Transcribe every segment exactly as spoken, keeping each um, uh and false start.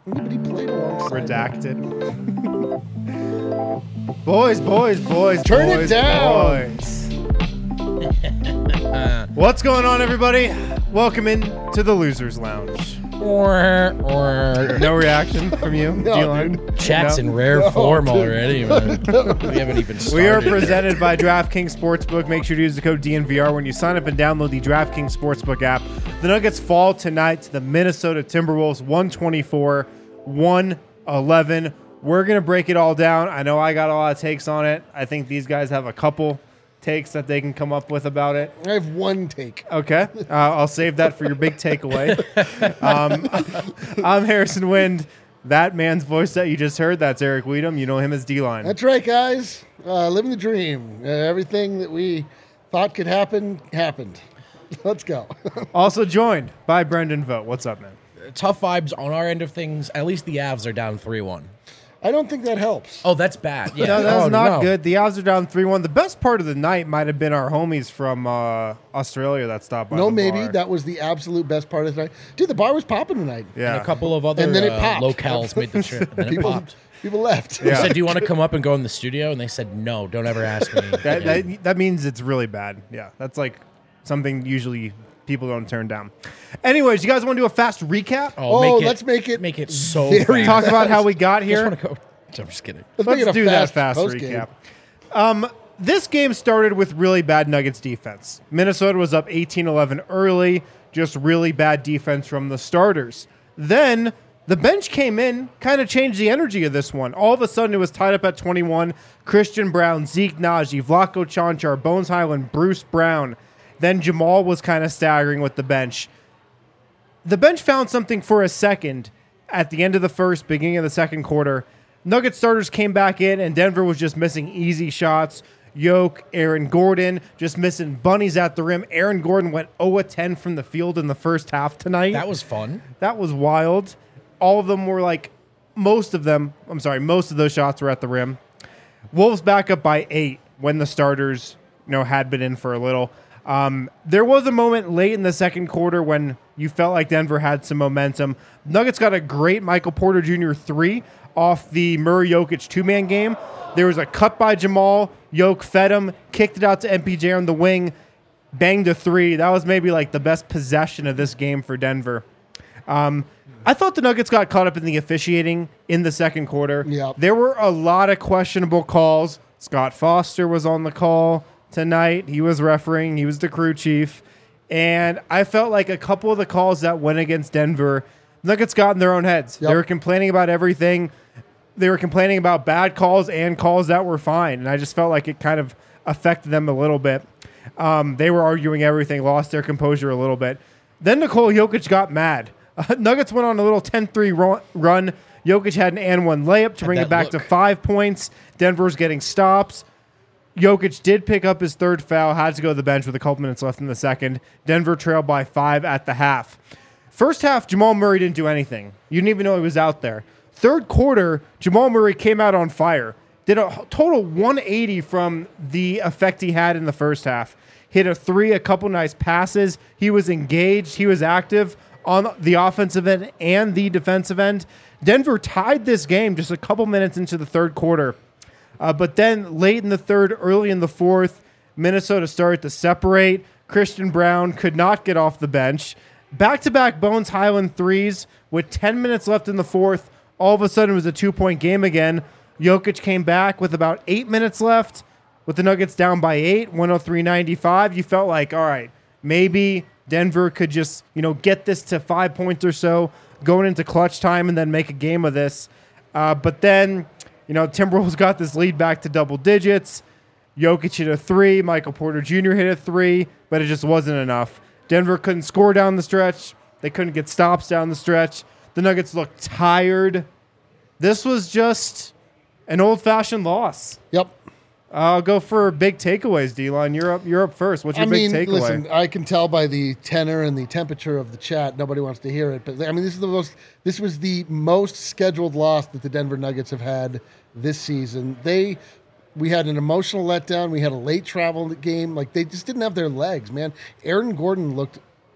But he played alongside. Redacted. boys, boys, boys, Turn it boys, down. boys. What's going on, everybody? Welcome in to the Losers Lounge. No reaction from you, No, D-Line? dude. Chat's No? in rare No, form dude. already, man. We haven't even started. We are presented by DraftKings Sportsbook. Make sure to use the code D N V R when you sign up and download the DraftKings Sportsbook app. The Nuggets fall tonight to the Minnesota Timberwolves, one twenty-four, one eleven. We're going to break it all down. I know I got a lot of takes on it. I think these guys have a couple takes that they can come up with about it. I have one take. Okay. Uh, I'll save that for your big takeaway. Um, I'm Harrison Wind. That man's voice that you just heard, that's Eric Weedham. You know him as D-Line. That's right, guys. Uh, living the dream. Uh, everything that we thought could happen, happened. Let's go. Also joined by Brendan Vogt. What's up, man? Tough vibes on our end of things. At least the Avs are down three one. I don't think that helps. Oh, that's bad. Yeah. No, that's Oh, not no. good. The Avs are down three one. The best part of the night might have been our homies from uh, Australia that stopped by no, the maybe. bar. That was the absolute best part of the night. Dude, the bar was popping tonight. Yeah. And a couple of other And then it uh, popped. locales made the trip. And then it People, popped. people left. Yeah. I said, do you want to come up and go in the studio? And they said, no, don't ever ask me. That, again. that, that means it's really bad. Yeah. That's like something usually people don't turn down. Anyways, you guys want to do a fast recap? oh, Oh, make it, let's make it make it so very- fast. Talk about how we got I just here. want to go. I'm just kidding. Let's, make Let's it a do that fast fast post-game. recap. Um, this game started with really bad Nuggets defense. Minnesota was up eighteen eleven early, just really bad defense from the starters. Then the bench came in, kind of changed the energy of this one. All of a sudden, it was tied up at twenty-one. Christian Brown, Zeke Naji, Vlatko Čančar, Bones Highland, Bruce Brown. Then Jamal was kind of staggering with the bench. The bench found something for a second at the end of the first, beginning of the second quarter. Nugget starters came back in, and Denver was just missing easy shots. Yoke, Aaron Gordon, just missing bunnies at the rim. Aaron Gordon went zero of ten from the field in the first half tonight. That was fun. That was wild. All of them were like, most of them, I'm sorry, most of those shots were at the rim. Wolves back up by eight when the starters, you know, had been in for a little. Um, there was a moment late in the second quarter when you felt like Denver had some momentum. Nuggets got a great Michael Porter Junior three off the Murray Jokic two-man game. There was a cut by Jamal. Yoke fed him, kicked it out to M P J on the wing, banged a three. That was maybe like the best possession of this game for Denver. Um, I thought the Nuggets got caught up in the officiating in the second quarter. Yep. There were a lot of questionable calls. Scott Foster was on the call tonight. He was refereeing. He was the crew chief. And I felt like a couple of the calls that went against Denver, Nuggets got in their own heads. Yep. They were complaining about everything. They were complaining about bad calls and calls that were fine. And I just felt like it kind of affected them a little bit. Um, they were arguing everything, lost their composure a little bit. Then Nikola Jokic got mad. Uh, Nuggets went on a little ten three ro- run. Jokic had an and one layup to bring that it back look. to five points. Denver's getting stops. Jokic did pick up his third foul, had to go to the bench with a couple minutes left in the second. Denver trailed by five at the half. First half, Jamal Murray didn't do anything. You didn't even know he was out there. Third quarter, Jamal Murray came out on fire. Did a total one eighty from the effect he had in the first half. Hit a three, a couple nice passes. He was engaged. He was active on the offensive end and the defensive end. Denver tied this game just a couple minutes into the third quarter. Uh, but then late in the third, early in the fourth, Minnesota started to separate. Christian Brown could not get off the bench. Back-to-back Bones Highland threes with ten minutes left in the fourth. All of a sudden, it was a two-point game again. Jokic came back with about eight minutes left with the Nuggets down by eight, one oh three ninety-five. You felt like, all right, maybe Denver could just, you know, get this to five points or so going into clutch time and then make a game of this. Uh, but then, you know, Timberwolves got this lead back to double digits. Jokic hit a three. Michael Porter Junior hit a three, but it just wasn't enough. Denver couldn't score down the stretch. They couldn't get stops down the stretch. The Nuggets looked tired. This was just an old-fashioned loss. Yep. I'll go for big takeaways, D-Line. You're up, you're up first. What's your I mean, big takeaway? listen, I can tell by the tenor and the temperature of the chat, nobody wants to hear it. But I mean, this is the most. This was the most scheduled loss that the Denver Nuggets have had this season. They, we had an emotional letdown. We had a late travel game. Like they just didn't have their legs, man. Aaron Gordon looked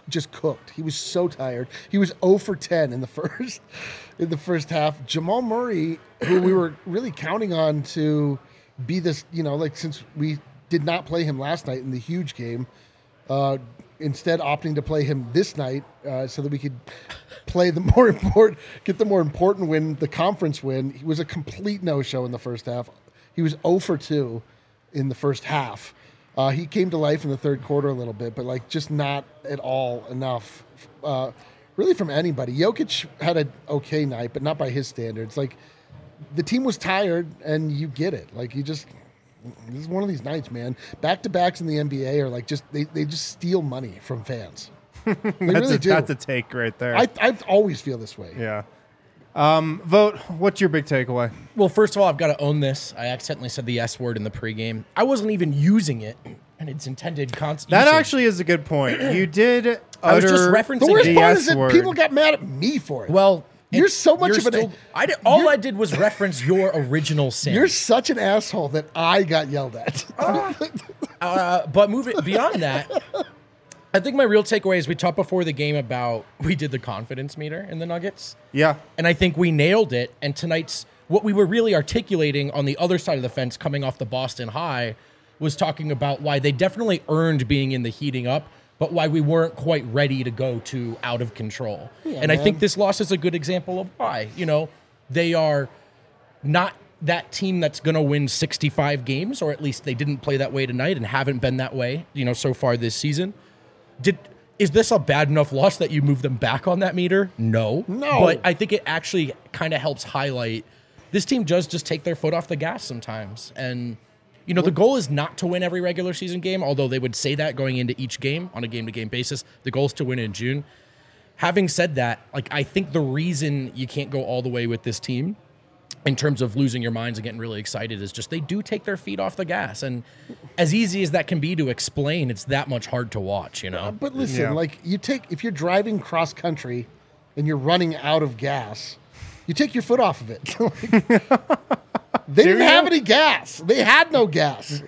just cooked. He was so tired. He was zero for ten in the first in the first half. Jamal Murray, who we were really counting on to be this, you know, like since we did not play him last night in the huge game, uh, instead opting to play him this night uh, so that we could play the more important, get the more important win, the conference win. He was a complete no-show in the first half. He was zero for two in the first half. Uh, he came to life in the third quarter a little bit, but like just not at all enough, uh, really from anybody. Jokic had an okay night, but not by his standards. Like the team was tired, and you get it. Like you just, this is one of these nights, man. Back-to-backs in the N B A are like just they, they just steal money from fans. They that's really a, do. That's a take right there. I I always feel this way. yeah. Um, Vote. What's your big takeaway? Well, first of all, I've got to own this. I accidentally said the S word in the pregame. I wasn't even using it, and its intended concept. That actually is a good point. You did. I was just utter referencing The worst the part S is that word. people got mad at me for it. Well, You're it- so much of an- still- I did, all you're- I did was reference your original sin. You're such an asshole that I got yelled at. Uh, but moving beyond that, I think my real takeaway is we talked before the game about we did the confidence meter in the Nuggets. Yeah. And I think we nailed it. And tonight's what we were really articulating on the other side of the fence coming off the Boston high was talking about why they definitely earned being in the heating up, but why we weren't quite ready to go to out of control. and I man. think this loss is a good example of why. You know, they are not that team that's going to win sixty-five games, or at least they didn't play that way tonight and haven't been that way, you know, so far this season. Did is this a bad enough loss that you move them back on that meter? No. No. But I think it actually kind of helps highlight this team does just take their foot off the gas sometimes. And, you know, the goal is not to win every regular season game, although they would say that going into each game on a game-to-game basis. The goal is to win in June. Having said that, like, I think the reason you can't go all the way with this team in terms of losing your minds and getting really excited is just they do take their feet off the gas. And as easy as that can be to explain, it's that much hard to watch, you know? But listen, Yeah. like you take if you're driving cross country and you're running out of gas, you take your foot off of it. Like, they didn't you? have any gas. They had no gas.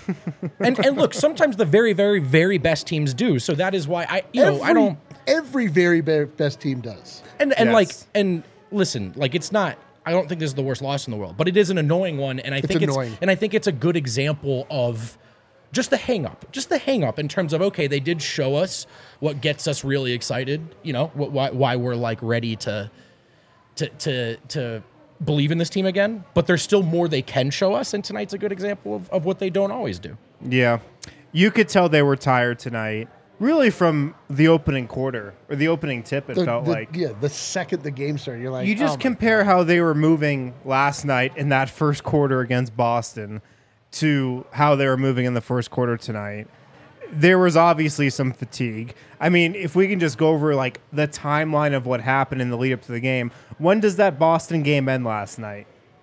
And and look, sometimes the very, very, very best teams do. So that is why I, you know, every, I don't. Every very be- best team does. And and Yes. like and listen, like it's not. I don't think this is the worst loss in the world, but it is an annoying one, and I think annoying. it's and I think it's a good example of just the hang up, just the hang up in terms of okay, they did show us what gets us really excited, you know, what, why why we're like ready to to to to believe in this team again, but there's still more they can show us, and tonight's a good example of, of what they don't always do. Yeah. You could tell they were tired tonight, really from the opening quarter or the opening tip, it The- felt the- like. yeah, the second the game started, you're like, You just oh my compare how they were moving last night in that first quarter against Boston to how they were moving in the first quarter tonight. There was obviously some fatigue. I mean, if we can just go over like the timeline of what happened in the lead up to the game, when does that Boston game end last night?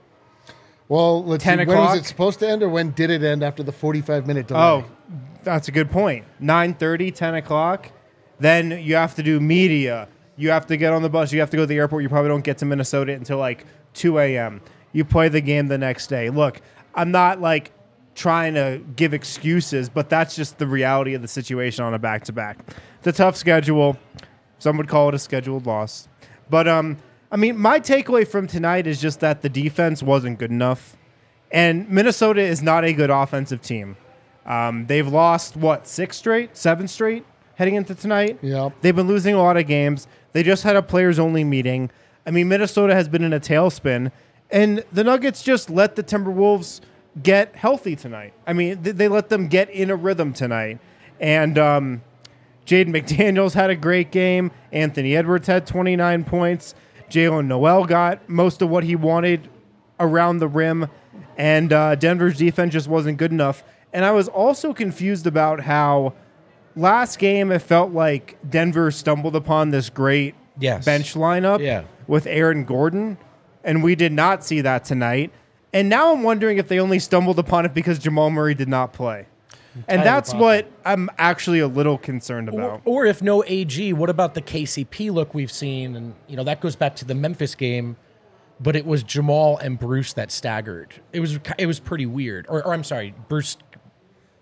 Well, let's ten see, when o'clock? was it supposed to end, or when did it end after the forty-five minute delay? Oh, that's a good point. nine thirty, ten o'clock. Then you have to do media. You have to get on the bus. You have to go to the airport. You probably don't get to Minnesota until like two a.m. You play the game the next day. Look, I'm not like trying to give excuses, but that's just the reality of the situation on a back-to-back. It's a tough schedule. Some would call it a scheduled loss. But, um, I mean, my takeaway from tonight is just that the defense wasn't good enough. And Minnesota is not a good offensive team. Um, they've lost, what, six straight? Seven straight heading into tonight? Yep. They've been losing a lot of games. They just had a players-only meeting. I mean, Minnesota has been in a tailspin. And the Nuggets just let the Timberwolves get healthy tonight. I mean, th- they let them get in a rhythm tonight. And um, Jaden McDaniels had a great game. Anthony Edwards had twenty-nine points. Jalen Noel got most of what he wanted around the rim. And uh, Denver's defense just wasn't good enough. And I was also confused about how last game it felt like Denver stumbled upon this great Yes. bench lineup Yeah. with Aaron Gordon. And we did not see that tonight. And now I'm wondering if they only stumbled upon it because Jamal Murray did not play. And that's possible. what I'm actually a little concerned Or, about. or if no A G, what about the K C P look we've seen? And you know that goes back to the Memphis game, but it was Jamal and Bruce that staggered. It was it was pretty weird. Or, or I'm sorry, Bruce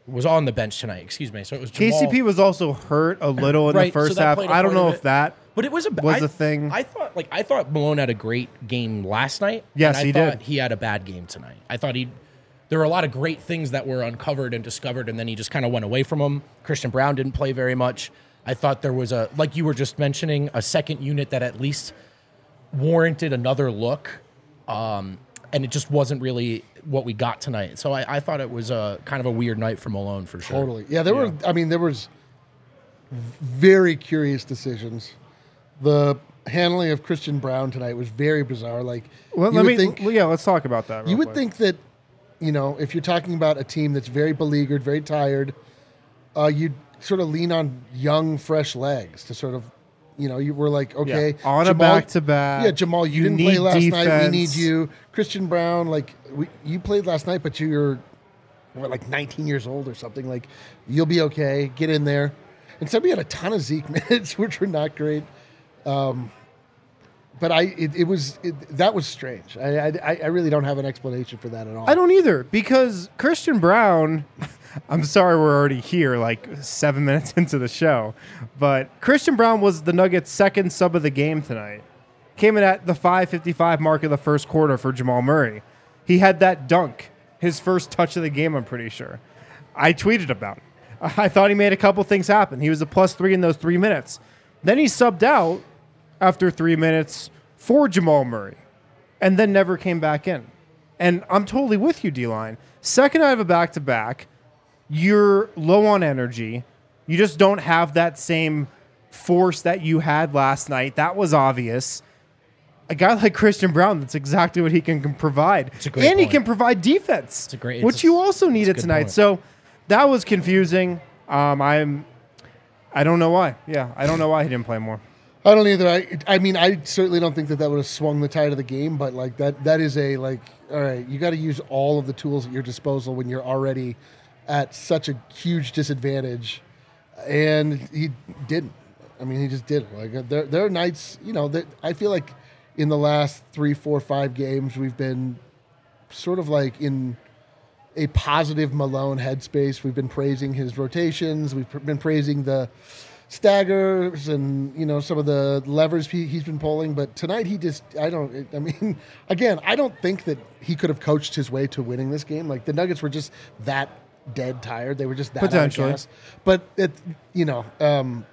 was on the bench tonight. Excuse me. So it was Jamal. K C P was also hurt a little in Right, the first so that half. played a I don't part of know it. if that But it was a was I, a thing. I thought like I thought Malone had a great game last night. Yes, and I he thought did. He had a bad game tonight. I thought he there were a lot of great things that were uncovered and discovered, and then he just kind of went away from them. Christian Brown didn't play very much. I thought there was a like you were just mentioning a second unit that at least warranted another look, um, and it just wasn't really what we got tonight. So I, I thought it was a kind of a weird night for Malone for sure. Totally. Yeah, there were. I mean, there was very curious decisions. The handling of Christian Brown tonight was very bizarre. Like, Well, you let would me. think, well, yeah, let's talk about that. you real would quick. think that, you know, if you're talking about a team that's very beleaguered, very tired, uh, you'd sort of lean on young, fresh legs to sort of, you know, you were like, okay, Yeah, on a Jamal- back-to-back, Yeah, Jamal, you, you didn't need play last night. We defense. need you. Christian Brown, like, we, you played last night, but you're what, like nineteen years old or something. Like, you'll be okay. Get in there. Instead, we had a ton of Zeke minutes, which were not great. Um, but I, it, it was it, that was strange. I, I, I really don't have an explanation for that at all. I don't either because Christian Brown. I'm sorry we're already here, like seven minutes into the show, but Christian Brown was the Nuggets' second sub of the game tonight. Came in at the five fifty-five mark of the first quarter for Jamal Murray. He had that dunk, his first touch of the game, I'm pretty sure. I tweeted about it. I thought he made a couple things happen. He was a plus three in those three minutes. Then he subbed out after three minutes for Jamal Murray and then never came back in. And I'm totally with you, D-Line. Second out of a back-to-back, you're low on energy. You just don't have that same force that you had last night. That was obvious. A guy like Christian Brown, that's exactly what he can, can provide. It's a great and he point. can provide defense, It's a great- which it's a- you also needed good tonight. point. So that was confusing. Um, I'm, I don't know why. Yeah, I don't know why he didn't play more. I don't either. I, I mean, I certainly don't think that that would have swung the tide of the game, but like that, that is a like, all right, you got to use all of the tools at your disposal when you're already at such a huge disadvantage, and he didn't. I mean, he just didn't. Like there, there are nights, you know, that I feel like in the last three, four, five games we've been sort of like in a positive Malone headspace. We've been praising his rotations. We've pr- been praising the staggers and, you know, some of the levers he, he's been pulling. But tonight he just, I don't, I mean, again, I don't think that he could have coached his way to winning this game. Like the Nuggets were just that dead tired. They were just that out of Potentially. gas. But, it, you know, um,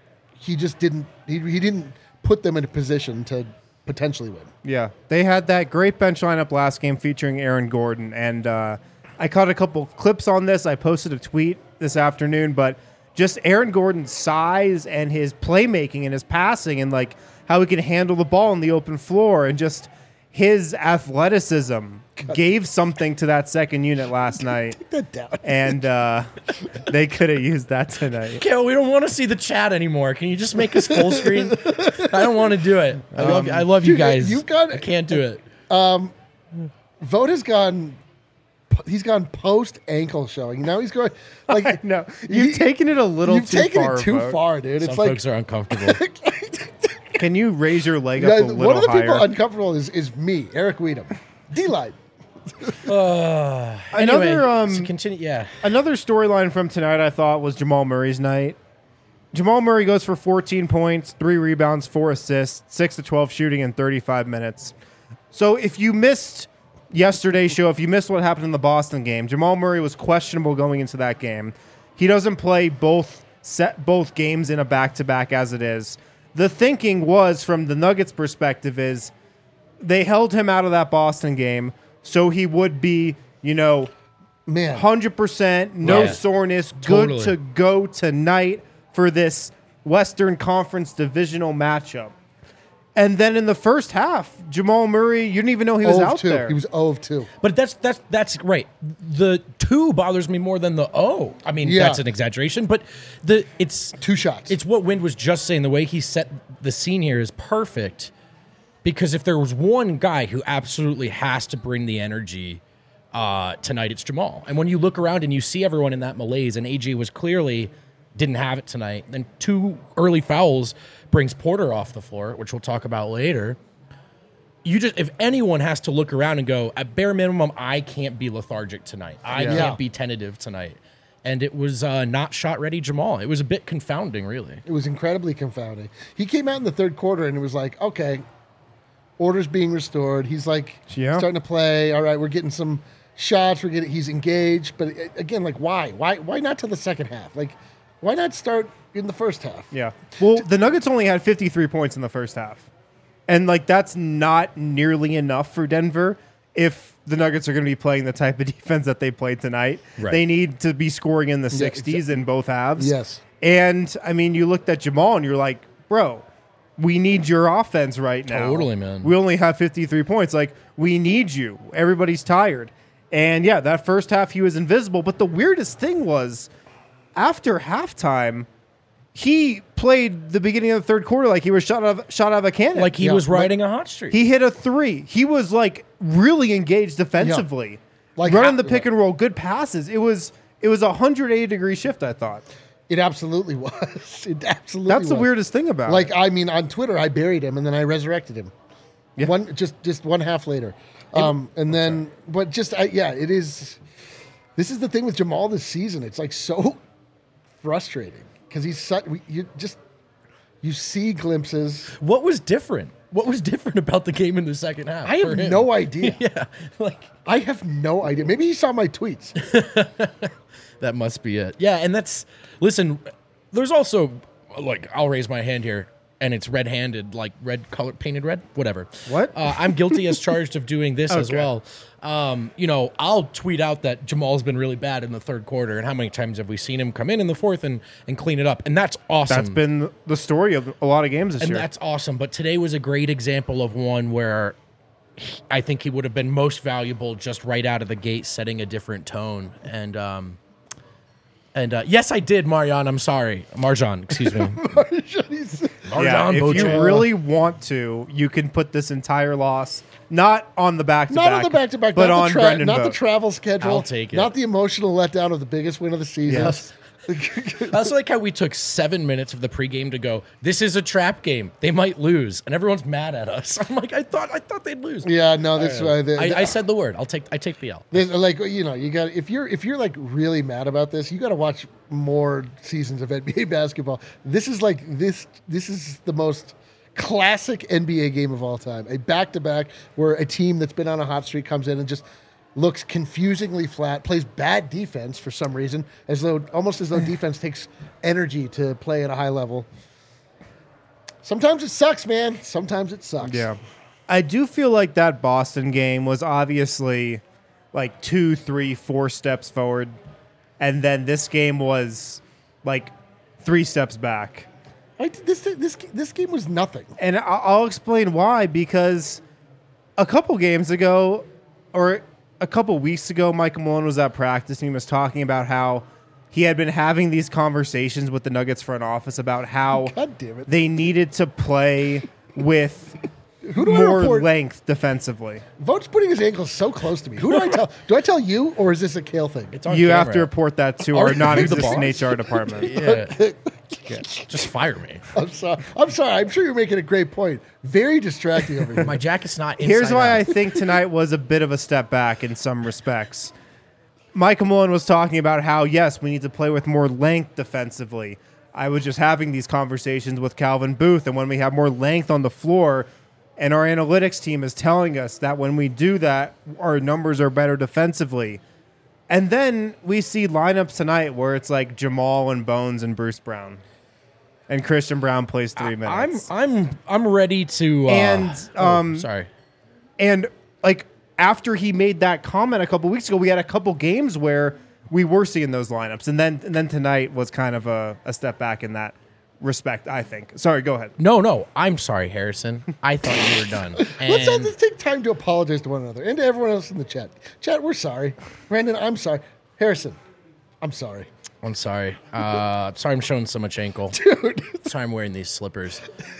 he just didn't, he, he didn't put them in a position to potentially win. Yeah, they had that great bench lineup last game featuring Aaron Gordon, and uh, I caught a couple clips on this. I posted a tweet this afternoon, but just Aaron Gordon's size and his playmaking and his passing and like how he can handle the ball on the open floor and just his athleticism gave something to that second unit last night. Take that down. And uh, they could have used that tonight. Kale, we don't want to see the chat anymore. Can you just make us full screen? I don't want to do it. I love, I love you dude, guys. you've got- I can't do it. Vogt has gone. He's gone post ankle showing. Now he's going like No, you've you- taken it a little You've too taken far. it too Vogt. far, dude. It's Some like folks are uncomfortable. Can you raise your leg yeah, up a little one of the higher? people uncomfortable is, is me, Eric Weedham, D-Line. Another Anyway, um, so continue. Yeah. Another storyline from tonight I thought was Jamal Murray's night. Jamal Murray goes for fourteen points, three rebounds, four assists, six to twelve shooting in thirty-five minutes. So if you missed yesterday's show, if you missed what happened in the Boston game, Jamal Murray was questionable going into that game. He doesn't play both set both games in a back-to-back as it is. The thinking was, from the Nuggets' perspective, is they held him out of that Boston game so he would be, you know, Man, one hundred percent, no Yeah. soreness, good Totally. to go tonight for this Western Conference divisional matchup. And then in the first half, Jamal Murray, you didn't even know he was zero of out two. there. He was zero of two. But that's that's that's right. The two bothers me more than the oh. I mean, Yeah. that's an exaggeration, but the it's Two shots. It's what Wind was just saying. The way he set the scene here is perfect, because if there was one guy who absolutely has to bring the energy uh, tonight, it's Jamal. And when you look around and you see everyone in that malaise, and A J was clearly didn't have it tonight, then two early fouls brings Porter off the floor, which we'll talk about later. You just, if anyone has to look around and go, at bare minimum, I can't be lethargic tonight. I Yeah. can't be tentative tonight. and it was uh, not shot-ready Jamal. It was a bit confounding, really. It was incredibly confounding. He came out in the third quarter and it was like, okay, order's being restored. He's like Yeah. starting to play. All right, we're getting some shots. We're getting. He's engaged. But uh, again, like, why? Why? Why not till the second half? Like, why not start in the first half? Yeah. Well, the Nuggets only had fifty-three points in the first half. And, like, that's not nearly enough for Denver if the Nuggets are going to be playing the type of defense that they played tonight. Right. They need to be scoring in the Yeah, sixties exa- in both halves. Yes. And, I mean, you looked at Jamal and you're like, bro, we need your offense right now. Totally, man. We only have fifty-three points. Like, we need you. Everybody's tired. And, yeah, that first half he was invisible. But the weirdest thing was after halftime, he played the beginning of the third quarter like he was shot out of, shot out of a cannon. Like he Yeah, was like- riding a hot streak. He hit a three. He was like really engaged defensively, Like, running ha- the pick and roll, good passes. It was it was a one hundred eighty degree shift. I thought It absolutely was. It absolutely. that's the was. weirdest thing about Like, it. I mean, on Twitter, I buried him and then I resurrected him. Yeah. One just just one half later, um, and then but just I, yeah, it is. This is the thing with Jamal this season. It's like so frustrating because he's such. You just you see glimpses. What was different? What was different about the game in the second half? I for have him? no idea. Yeah, like I have no idea. Maybe he saw my tweets. that must be it. Yeah, and that's listen. There's also like I'll raise my hand here, and it's red-handed, like red color painted red, whatever. What? Uh, I'm guilty as charged of doing this as Okay. well. Um, you know, I'll tweet out that Jamal's been really bad in the third quarter, and how many times have we seen him come in in the fourth and and clean it up? And that's awesome. That's been the story of a lot of games this and year. that's awesome. But today was a great example of one where he- I think he would have been most valuable just right out of the gate, setting a different tone. And um, and uh, yes, I did, Marianne. I'm sorry, Marjan. Excuse me, He's- yeah, Marjan if you Beauchamp. really want to, you can put this entire loss not on the back to not back, on the back to back, but not, on the, tra- Brendan not the Vogt. travel schedule. I'll take it. Not the emotional letdown of the biggest win of the season. Yes. I also like how we took seven minutes of the pregame to go, this is a trap game. They might lose. And everyone's mad at us. I'm like, I thought I thought they'd lose. Yeah, no, this is why the, I, I said the word. I'll take I take the L. There's, like, you know, you got if you're if you're like really mad about this, you got to watch more seasons of N B A basketball. This is like this this is the most classic N B A game of all time. A back-to-back where a team that's been on a hot streak comes in and just looks confusingly flat, plays bad defense for some reason, as though almost as though defense takes energy to play at a high level. Sometimes it sucks, man. Sometimes it sucks. Yeah. I do feel like that Boston game was obviously like two, three, four steps forward. And then this game was like three steps back. I, this this this game was nothing. And I- I'll explain why. Because a couple games ago, or a couple weeks ago, Michael Malone was at practice and he was talking about how he had been having these conversations with the Nuggets front office about how God damn it. they needed to play with Who do I more report? length defensively. Vogt's putting his ankles so close to me. Who do I tell? Do I tell you, or is this a Kale thing? It's on You camera. have to report that to Are our you the non-existent boss? H R department. Yeah. Yeah. Just fire me. I'm sorry. I'm sorry. I'm sure you're making a great point. Very distracting over here. My jacket's not inside Here's why out. I think tonight was a bit of a step back in some respects. Michael Malone was talking about how, yes, we need to play with more length defensively. I was just having these conversations with Calvin Booth, and when we have more length on the floor, and our analytics team is telling us that when we do that, our numbers are better defensively. And then we see lineups tonight where it's like Jamal and Bones and Bruce Brown. And Christian Brown plays three I'm minutes. I'm I'm ready to uh, And, oh, um, sorry. And like after he made that comment a couple weeks ago, we had a couple games where we were seeing those lineups, and then and then tonight was kind of a, a step back in that respect, I think. Sorry, go ahead. No, no, I'm sorry, Harrison. I thought you were done. Let's, all, And let's take time to apologize to one another and to everyone else in the chat. Chat, we're sorry. Brandon, I'm sorry. Harrison, I'm sorry. I'm sorry. Uh, sorry, I'm showing so much ankle. Dude. Sorry, I'm wearing these slippers.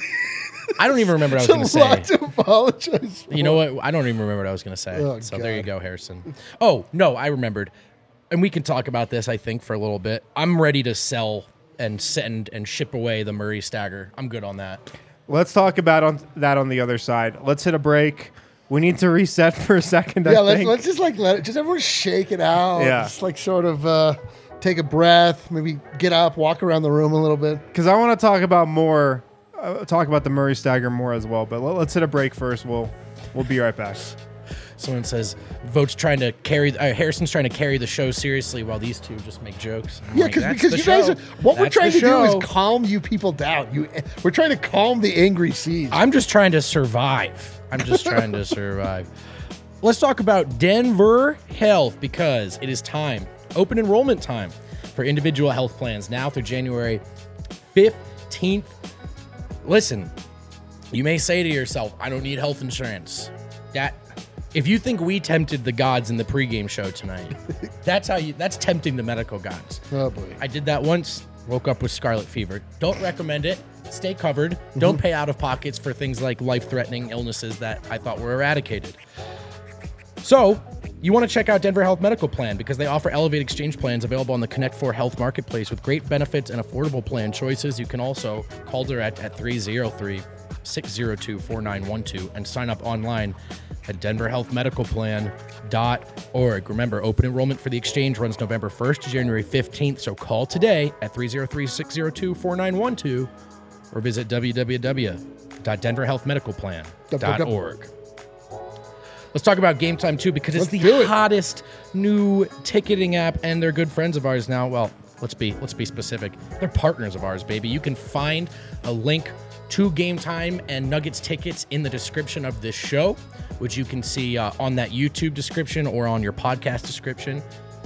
I don't even remember what I was It's a going lot to say. to apologize for. You know what? I don't even remember what I was going to say. Oh, so there you God. go, Harrison. Oh, no, I remembered. And we can talk about this, I think, for a little bit. I'm ready to sell and send and ship away the Murray Stagger. I'm good on that. Let's talk about on that on the other side. Let's hit a break. We need to reset for a second. Yeah, I let's, think. let's just like let it, just everyone shake it out. Yeah. Just like sort of, uh, take a breath, maybe get up, walk around the room a little bit. Because I want to talk about more, uh, talk about the Murray stagger more as well. But let, let's hit a break first. We'll we'll be right back. Someone says Vote's trying to carry. Uh, Harrison's trying to carry the show seriously while these two just make jokes. I'm Yeah, like, cause, "That's because the you guys, show. are, what we're That's trying the to do show." is calm you people down. You, we're trying to calm the angry seas. I'm just trying to survive. I'm just trying to survive. Let's talk about Denver Health because it is time. Open enrollment time for individual health plans now through January fifteenth. Listen, you may say to yourself, I don't need health insurance. That if you think we tempted the gods in the pregame show tonight, that's how you that's tempting the medical gods. Oh boy. I did that once, woke up with scarlet fever. Don't recommend it. Stay covered. Don't pay out of pockets for things like life-threatening illnesses that I thought were eradicated. So, you want to check out Denver Health Medical Plan because they offer Elevate Exchange plans available on the Connect four Health Marketplace with great benefits and affordable plan choices. You can also call direct at three oh three, six oh two, four nine one two and sign up online at denver health medical plan dot org. Remember, open enrollment for the exchange runs November first to January fifteenth, so call today at three oh three, six oh two, four nine one two or visit w w w dot denver health medical plan dot org. Let's talk about Game Time, too, because it's Let's the do it. hottest new ticketing app, and they're good friends of ours now. Well, let's be let's be specific. They're partners of ours, baby. You can find a link to Game Time and Nuggets tickets in the description of this show, which you can see uh, on that YouTube description or on your podcast description.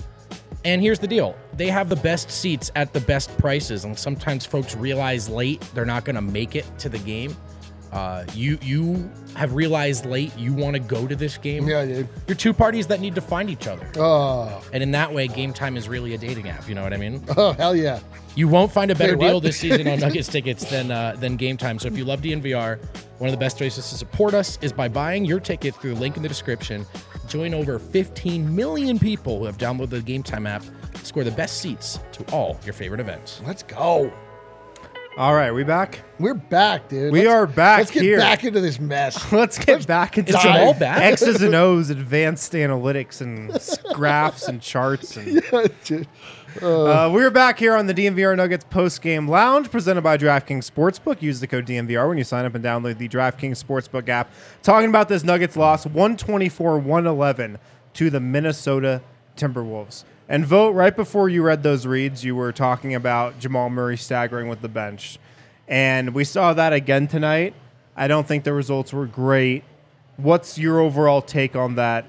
And here's the deal. They have the best seats at the best prices, and sometimes folks realize late they're not going to make it to the game. Uh, you you have realized late you want to go to this game. Yeah, dude. You're two parties that need to find each other. Oh, And in that way, Game Time is really a dating app. You know what I mean? oh, hell yeah. You won't find a better Wait, what? deal this season on Nuggets tickets than uh, than Game Time. So if you love D N V R, one of the best ways to support us is by buying your tickets through the link in the description. Join over fifteen million people who have downloaded the Game Time app. Score the best seats to all your favorite events. Let's go. All right, we back? We're back, dude. We Let's- are back Let's get here. back into this mess. Let's get back into Is Jamal back? X's and O's, advanced analytics, and s- graphs and charts. And Dude. uh, we're back here on the D N V R Nuggets post-game lounge, presented by DraftKings Sportsbook. Use the code D N V R when you sign up and download the DraftKings Sportsbook app. Talking about this Nuggets loss, one twenty-four to one eleven to the Minnesota Timberwolves. And Vote, right before you read those reads, you were talking about Jamal Murray staggering with the bench. And we saw that again tonight. I don't think the results were great. What's your overall take on that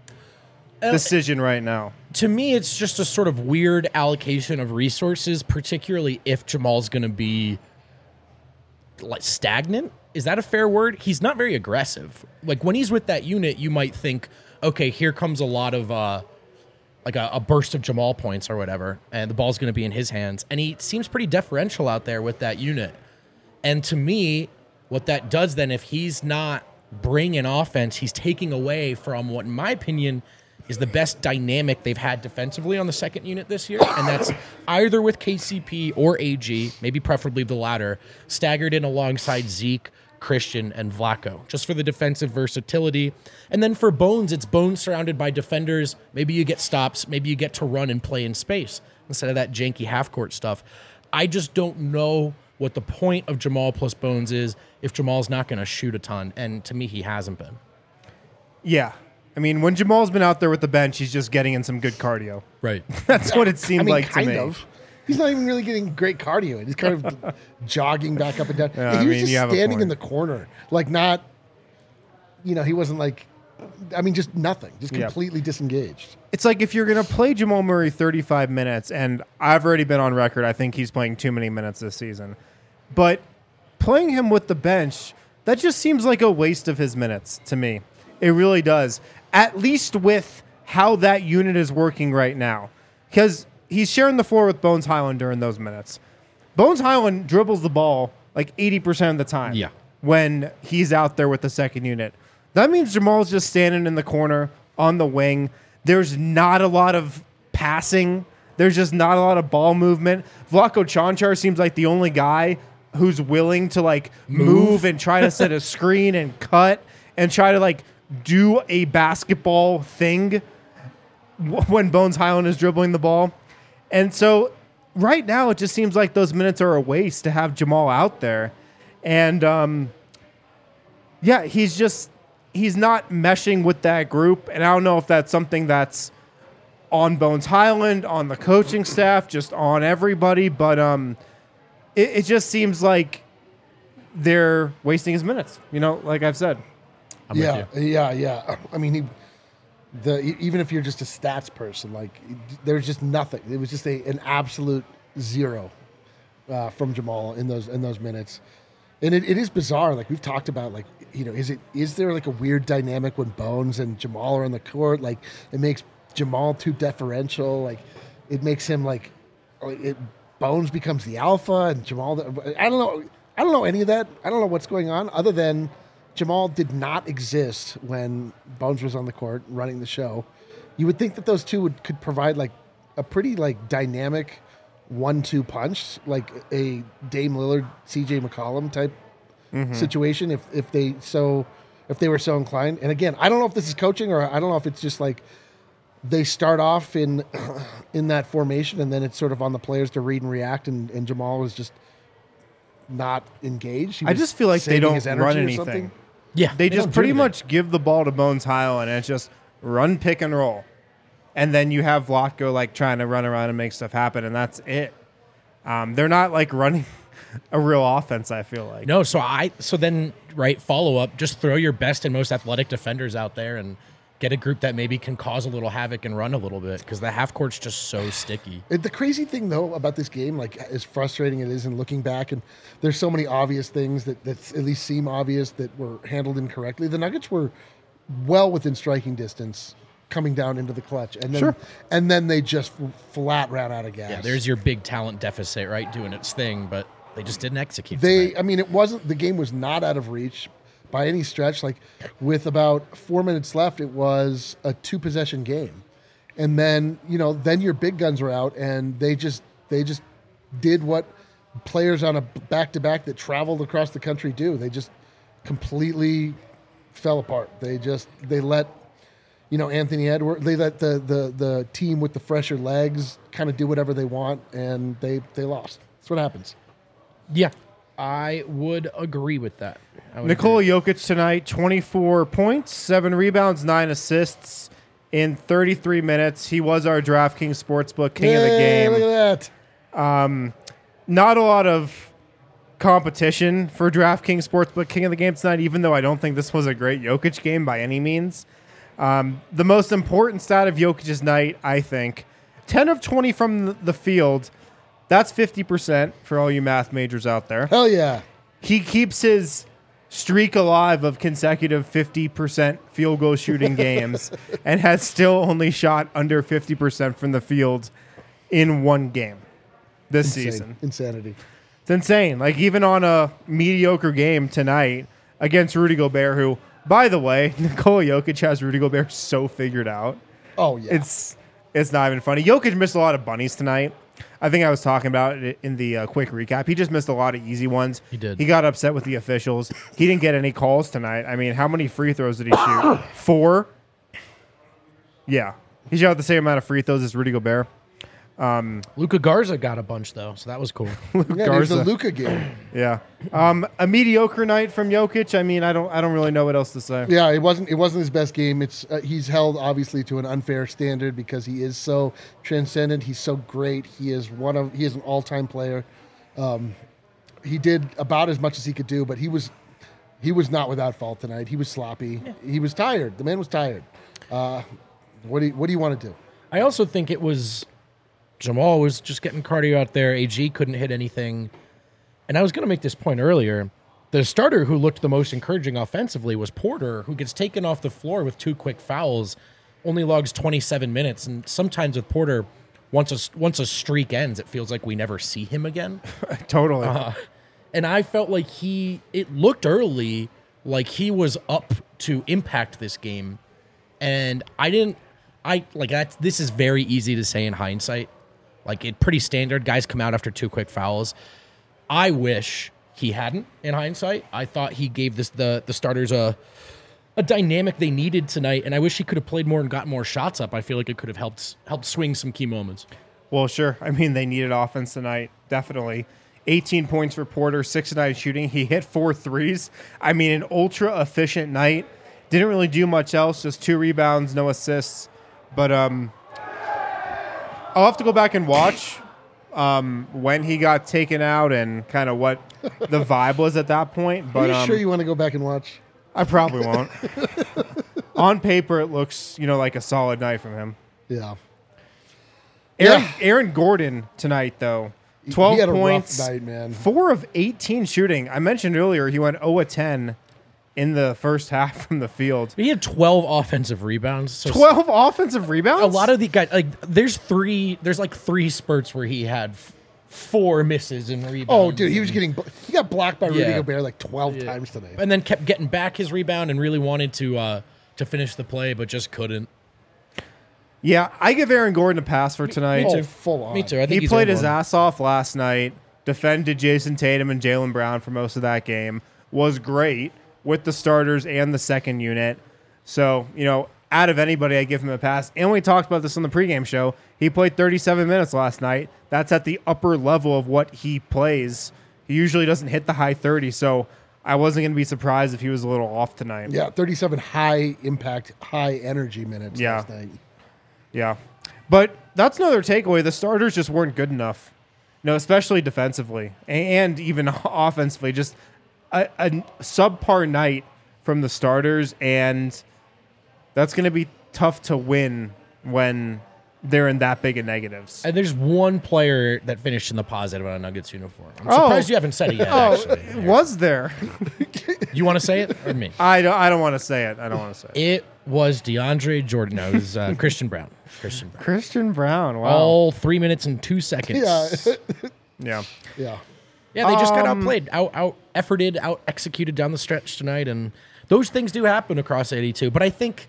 Uh, decision right now? To me, it's just a sort of weird allocation of resources, particularly if Jamal's going to be like stagnant. Is that a fair word? He's not very aggressive. Like when he's with that unit, you might think, okay, here comes a lot of uh, like a, a burst of Jamal points or whatever, and the ball's going to be in his hands. And he seems pretty deferential out there with that unit. And to me, what that does then, if he's not bringing offense, he's taking away from what, in my opinion, is the best dynamic they've had defensively on the second unit this year. And that's either with K C P or A G, maybe preferably the latter, staggered in alongside Zeke, Christian, and Vlaco, just for the defensive versatility. And then for Bones, it's Bones surrounded by defenders. Maybe you get stops. Maybe you get to run and play in space instead of that janky half-court stuff. I just don't know what the point of Jamal plus Bones is if Jamal's not going to shoot a ton. And to me, he hasn't been. Yeah. I mean, when Jamal's been out there with the bench, he's just getting in some good cardio. Right. That's what it seemed I mean, like kind to me. of. He's not even really getting great cardio. He's kind of jogging back up and down. Yeah, he I was mean, just you have a standing in point. the corner, like not, you know, he wasn't like, I mean, just nothing, just Yeah. completely disengaged. It's like if you're going to play Jamal Murray thirty-five minutes, and I've already been on record, I think he's playing too many minutes this season. But playing him with the bench, that just seems like a waste of his minutes to me. It really does. At least with how that unit is working right now. Because he's sharing the floor with Bones Highland during those minutes. Bones Highland dribbles the ball like eighty percent of the time Yeah. when he's out there with the second unit. That means Jamal's just standing in the corner on the wing. There's not a lot of passing. There's just not a lot of ball movement. Vlaco Chanchar seems like the only guy who's willing to like move, move and try to set a screen and cut and try to like do a basketball thing w- when Bones Highland is dribbling the ball. And so right now it just seems like those minutes are a waste to have Jamal out there. And um, yeah, he's just he's not meshing with that group. And I don't know if that's something that's on Bones Highland, on the coaching staff, just on everybody. But um, it, it just seems like they're wasting his minutes, you know, like I've said. I'm yeah, with you. yeah, yeah. I mean, he, the e- even if you're just a stats person, like there's just nothing. It was just a an absolute zero uh, from Jamal in those in those minutes, and it, it is bizarre. Like we've talked about, like you know, is it is there like a weird dynamic when Bones and Jamal are on the court? Like it makes Jamal too deferential. Like it makes him like, like it, Bones becomes the alpha and Jamal. The, I don't know. I don't know any of that. I don't know what's going on other than Jamal did not exist when Bones was on the court running the show. You would think that those two would could provide like a pretty like dynamic one two punch, like a Dame Lillard, C J McCollum type mm-hmm. situation if if they so if they were so inclined. And again, I don't know if this is coaching or I don't know if it's just like they start off in in that formation and then it's sort of on the players to read and react and, and Jamal was just not engaged. He I just feel like they saving don't his energy run or anything. something. Yeah, They, just don't pretty do much give the ball to Bones Highland and it's just run, pick, and roll. And then you have Vlatko like trying to run around and make stuff happen, and that's it. Um, they're not like running a real offense, I feel like. No, so I so then right follow up, just throw your best and most athletic defenders out there and get a group that maybe can cause a little havoc and run a little bit because the half court's just so sticky. It- The crazy thing, though, about this game, like as frustrating it is, and looking back, and there's so many obvious things that, that at least seem obvious that were handled incorrectly. The Nuggets were well within striking distance coming down into the clutch, and then Sure. and then they just flat ran out of gas. Yeah, there's your big talent deficit, right, doing its thing, but they just didn't execute. They, tonight. I mean, it wasn't the game was not out of reach by any stretch. Like with about four minutes left, it was a two possession game, and then you know then your big guns were out, and they just they just did what players on a back to back that traveled across the country do. They just completely fell apart. They just they let you know Anthony Edwards. They let the the the team with the fresher legs kind of do whatever they want, and they they lost. That's what happens. Yeah, I would agree with that. I would Nikola agree. Jokic tonight, twenty-four points, seven rebounds, nine assists in thirty-three minutes. He was our DraftKings Sportsbook king of the Yay, game. Look at that. Not a lot of competition for DraftKings Sportsbook king of the game tonight, even though I don't think this was a great Jokic game by any means. Um, the most important stat of Jokic's night, I think, ten of twenty from the- the field. That's fifty percent for all you math majors out there. Hell yeah. He keeps his streak alive of consecutive fifty percent field goal shooting games and has still only shot under fifty percent from the field in one game this Insane. season. Insanity. It's insane. Like, even on a mediocre game tonight against Rudy Gobert, who, by the way, Nikola Jokic has Rudy Gobert so figured out. Oh, yeah. It's it's not even funny. Jokic missed a lot of bunnies tonight. I think I was talking about it in the uh, quick recap. He just missed a lot of easy ones. He did. He got upset with the officials. He didn't get any calls tonight. I mean, how many free throws did he shoot? Four? Yeah. He shot the same amount of free throws as Rudy Gobert. Luka Garza got a bunch though, so that was cool. yeah, there's the Garza. Luka game. Yeah. Um, a mediocre night from Jokic. I mean, I don't I don't really know what else to say. Yeah, it wasn't it wasn't his best game. It's uh, he's held obviously to an unfair standard because he is so transcendent. He's so great. He is one of he is an all-time player. Um, he did about as much as he could do, but he was he was not without fault tonight. He was sloppy. He was tired. The man was tired. Uh, what do you, what do you want to do? I also think it was Jamal was just getting cardio out there. A G couldn't hit anything. And I was going to make this point earlier. The starter who looked the most encouraging offensively was Porter, who gets taken off the floor with two quick fouls, only logs twenty-seven minutes. And sometimes with Porter, once a, once a streak ends, it feels like we never see him again. Totally. Uh, and I felt like he, it looked early like he was up to impact this game. And I didn't, I, like, that's, this is very easy to say in hindsight. Like, it pretty standard. Guys come out after two quick fouls. I wish he hadn't in hindsight. I thought he gave this the the starters a a dynamic they needed tonight, and I wish he could have played more and got more shots up. I feel like it could have helped helped swing some key moments. Well, sure. I mean, they needed offense tonight, definitely. eighteen points for Porter, six of nine shooting. He hit four threes. I mean, an ultra-efficient night. Didn't really do much else, just two rebounds, no assists. But um, I'll have to go back and watch um, when he got taken out and kind of what the vibe was at that point. But Are you um, sure you want to go back and watch? I probably won't. On paper, it looks, you know, like a solid night from him. Yeah. Aaron, Yeah. Aaron Gordon tonight, though. twelve he had a points, rough night, man. four of eighteen shooting. I mentioned earlier he went zero of ten in the first half from the field. He had twelve offensive rebounds. So twelve offensive rebounds? a lot of the guys, like, there's three, there's like three spurts where he had f- four misses in rebounds. Oh, dude, he was getting he got blocked by Rudy Yeah. Gobert like twelve Yeah. times today. and then kept getting back his rebound and really wanted to uh, to finish the play, but just couldn't. Yeah, I give Aaron Gordon a pass for tonight. Oh, too. full on. Me too. I think He he's played his Aaron Gordon. ass off last night, defended Jason Tatum and Jaylen Brown for most of that game, was great with the starters and the second unit. So, you know, out of anybody, I give him a pass. And we talked about this on the pregame show. He played thirty-seven minutes last night. That's at the upper level of what he plays. He usually doesn't hit the high thirties, so I wasn't going to be surprised if he was a little off tonight. Yeah, thirty-seven high impact, high energy minutes Yeah. last night. Yeah. But that's another takeaway. The starters just weren't good enough, you know, especially defensively and even offensively. Just a, a subpar night from the starters, and that's going to be tough to win when they're in that big of negatives. And there's one player that finished in the positive on a Nuggets uniform. I'm Oh. surprised you haven't said it yet, Oh, actually. was there? You want to say it or me? I don't. I don't want to say it. I don't want to say it. It was DeAndre Jordan. No, it was uh, Christian Brown. Christian Brown. Christian Brown. Wow. All three minutes and two seconds. Yeah, Yeah. yeah. Yeah, they just got Um, outplayed, out out efforted, out executed down the stretch tonight, and those things do happen across eighty-two. But I think,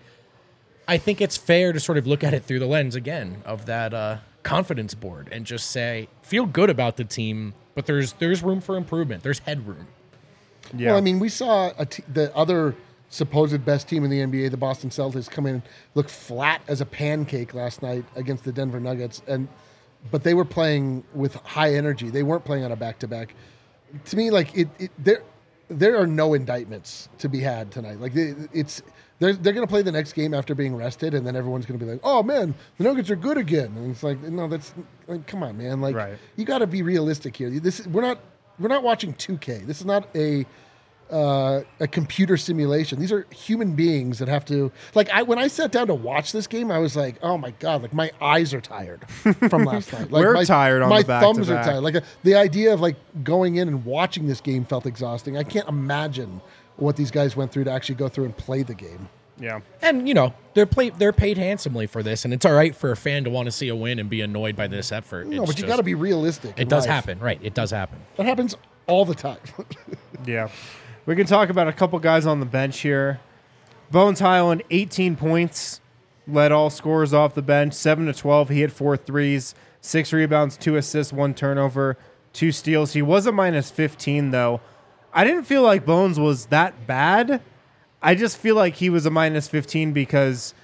I think it's fair to sort of look at it through the lens again of that uh, confidence board and just say, feel good about the team, but there's there's room for improvement. There's headroom. Yeah. Well, I mean, we saw a t- the other supposed best team in the N B A, the Boston Celtics, come in and look flat as a pancake last night against the Denver Nuggets, and but they were playing with high energy. They weren't playing on a back to back. To me, like it, it, there there are no indictments to be had tonight. Like it, it's they're they're going to play the next game after being rested, and then everyone's going to be like, "Oh man, the Nuggets are good again." And it's like, no, that's like, come on, man. Like Right. you got to be realistic here. This we're not we're not watching two K. This is not a uh, a computer simulation. These are human beings that have to like. I when I sat down to watch this game, I was like, "Oh my god!" Like my eyes are tired from last night. Like We're my, tired on my the thumbs are back-to-back. tired. Like uh, the idea of like going in and watching this game felt exhausting. I can't imagine what these guys went through to actually go through and play the game. yeah. And you know they're play, they're paid handsomely for this, and it's all right for a fan to want to see a win and be annoyed by this effort. No, It's but you just- got to be realistic. It in does life. happen, right? It does happen. That happens all the time. Yeah. We can talk about a couple guys on the bench here. Bones Highland, eighteen points, led all scorers off the bench, seven to twelve. He hit four threes, six rebounds, two assists, one turnover, two steals. He was a minus fifteen, though. I didn't feel like Bones was that bad. I just feel like he was a minus fifteen because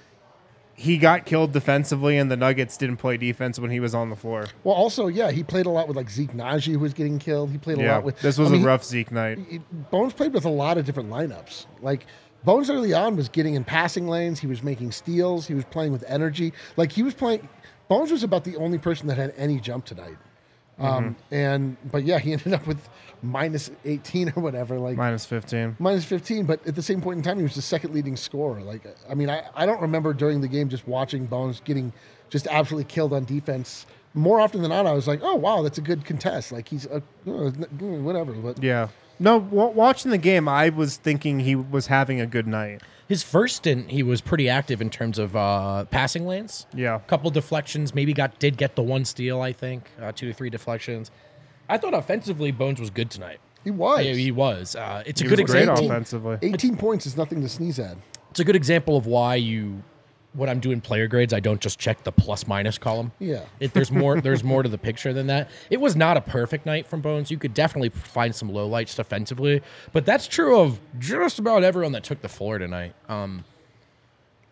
he got killed defensively and the Nuggets didn't play defense when he was on the floor. Well, also, yeah, he played a lot with like Zeke Naji, who was getting killed. He played a Yeah, lot with. this was I mean, a rough Zeke night. he- Bones played with a lot of different lineups. Like Bones early on was getting in passing lanes. He was making steals. He was playing with energy. Like he was playing. Bones was about the only person that had any jump tonight. Um, Mm-hmm. and but yeah, he ended up with minus eighteen or whatever. Like Minus fifteen. minus fifteen, but at the same point in time, he was the second leading scorer. Like, I mean, I, I don't remember during the game just watching Bones getting just absolutely killed on defense. More often than not, I was like, oh, wow, that's a good contest. Like, he's, a, uh, whatever. But Yeah. No, w- watching the game, I was thinking he was having a good night. His first stint, he was pretty active in terms of uh, passing lanes. Yeah. couple deflections, maybe got did get the one steal, I think, uh, two to three deflections. I thought offensively, Bones was good tonight. he was. Yeah, he was. Uh, it's a He good was great example. offensively. eighteen points is nothing to sneeze at. It's a good example of why you, when I'm doing player grades, I don't just check the plus minus column. Yeah. It, there's more. There's more to the picture than that. It was not a perfect night from Bones. You could definitely find some lowlights defensively, but that's true of just about everyone that took the floor tonight. Um,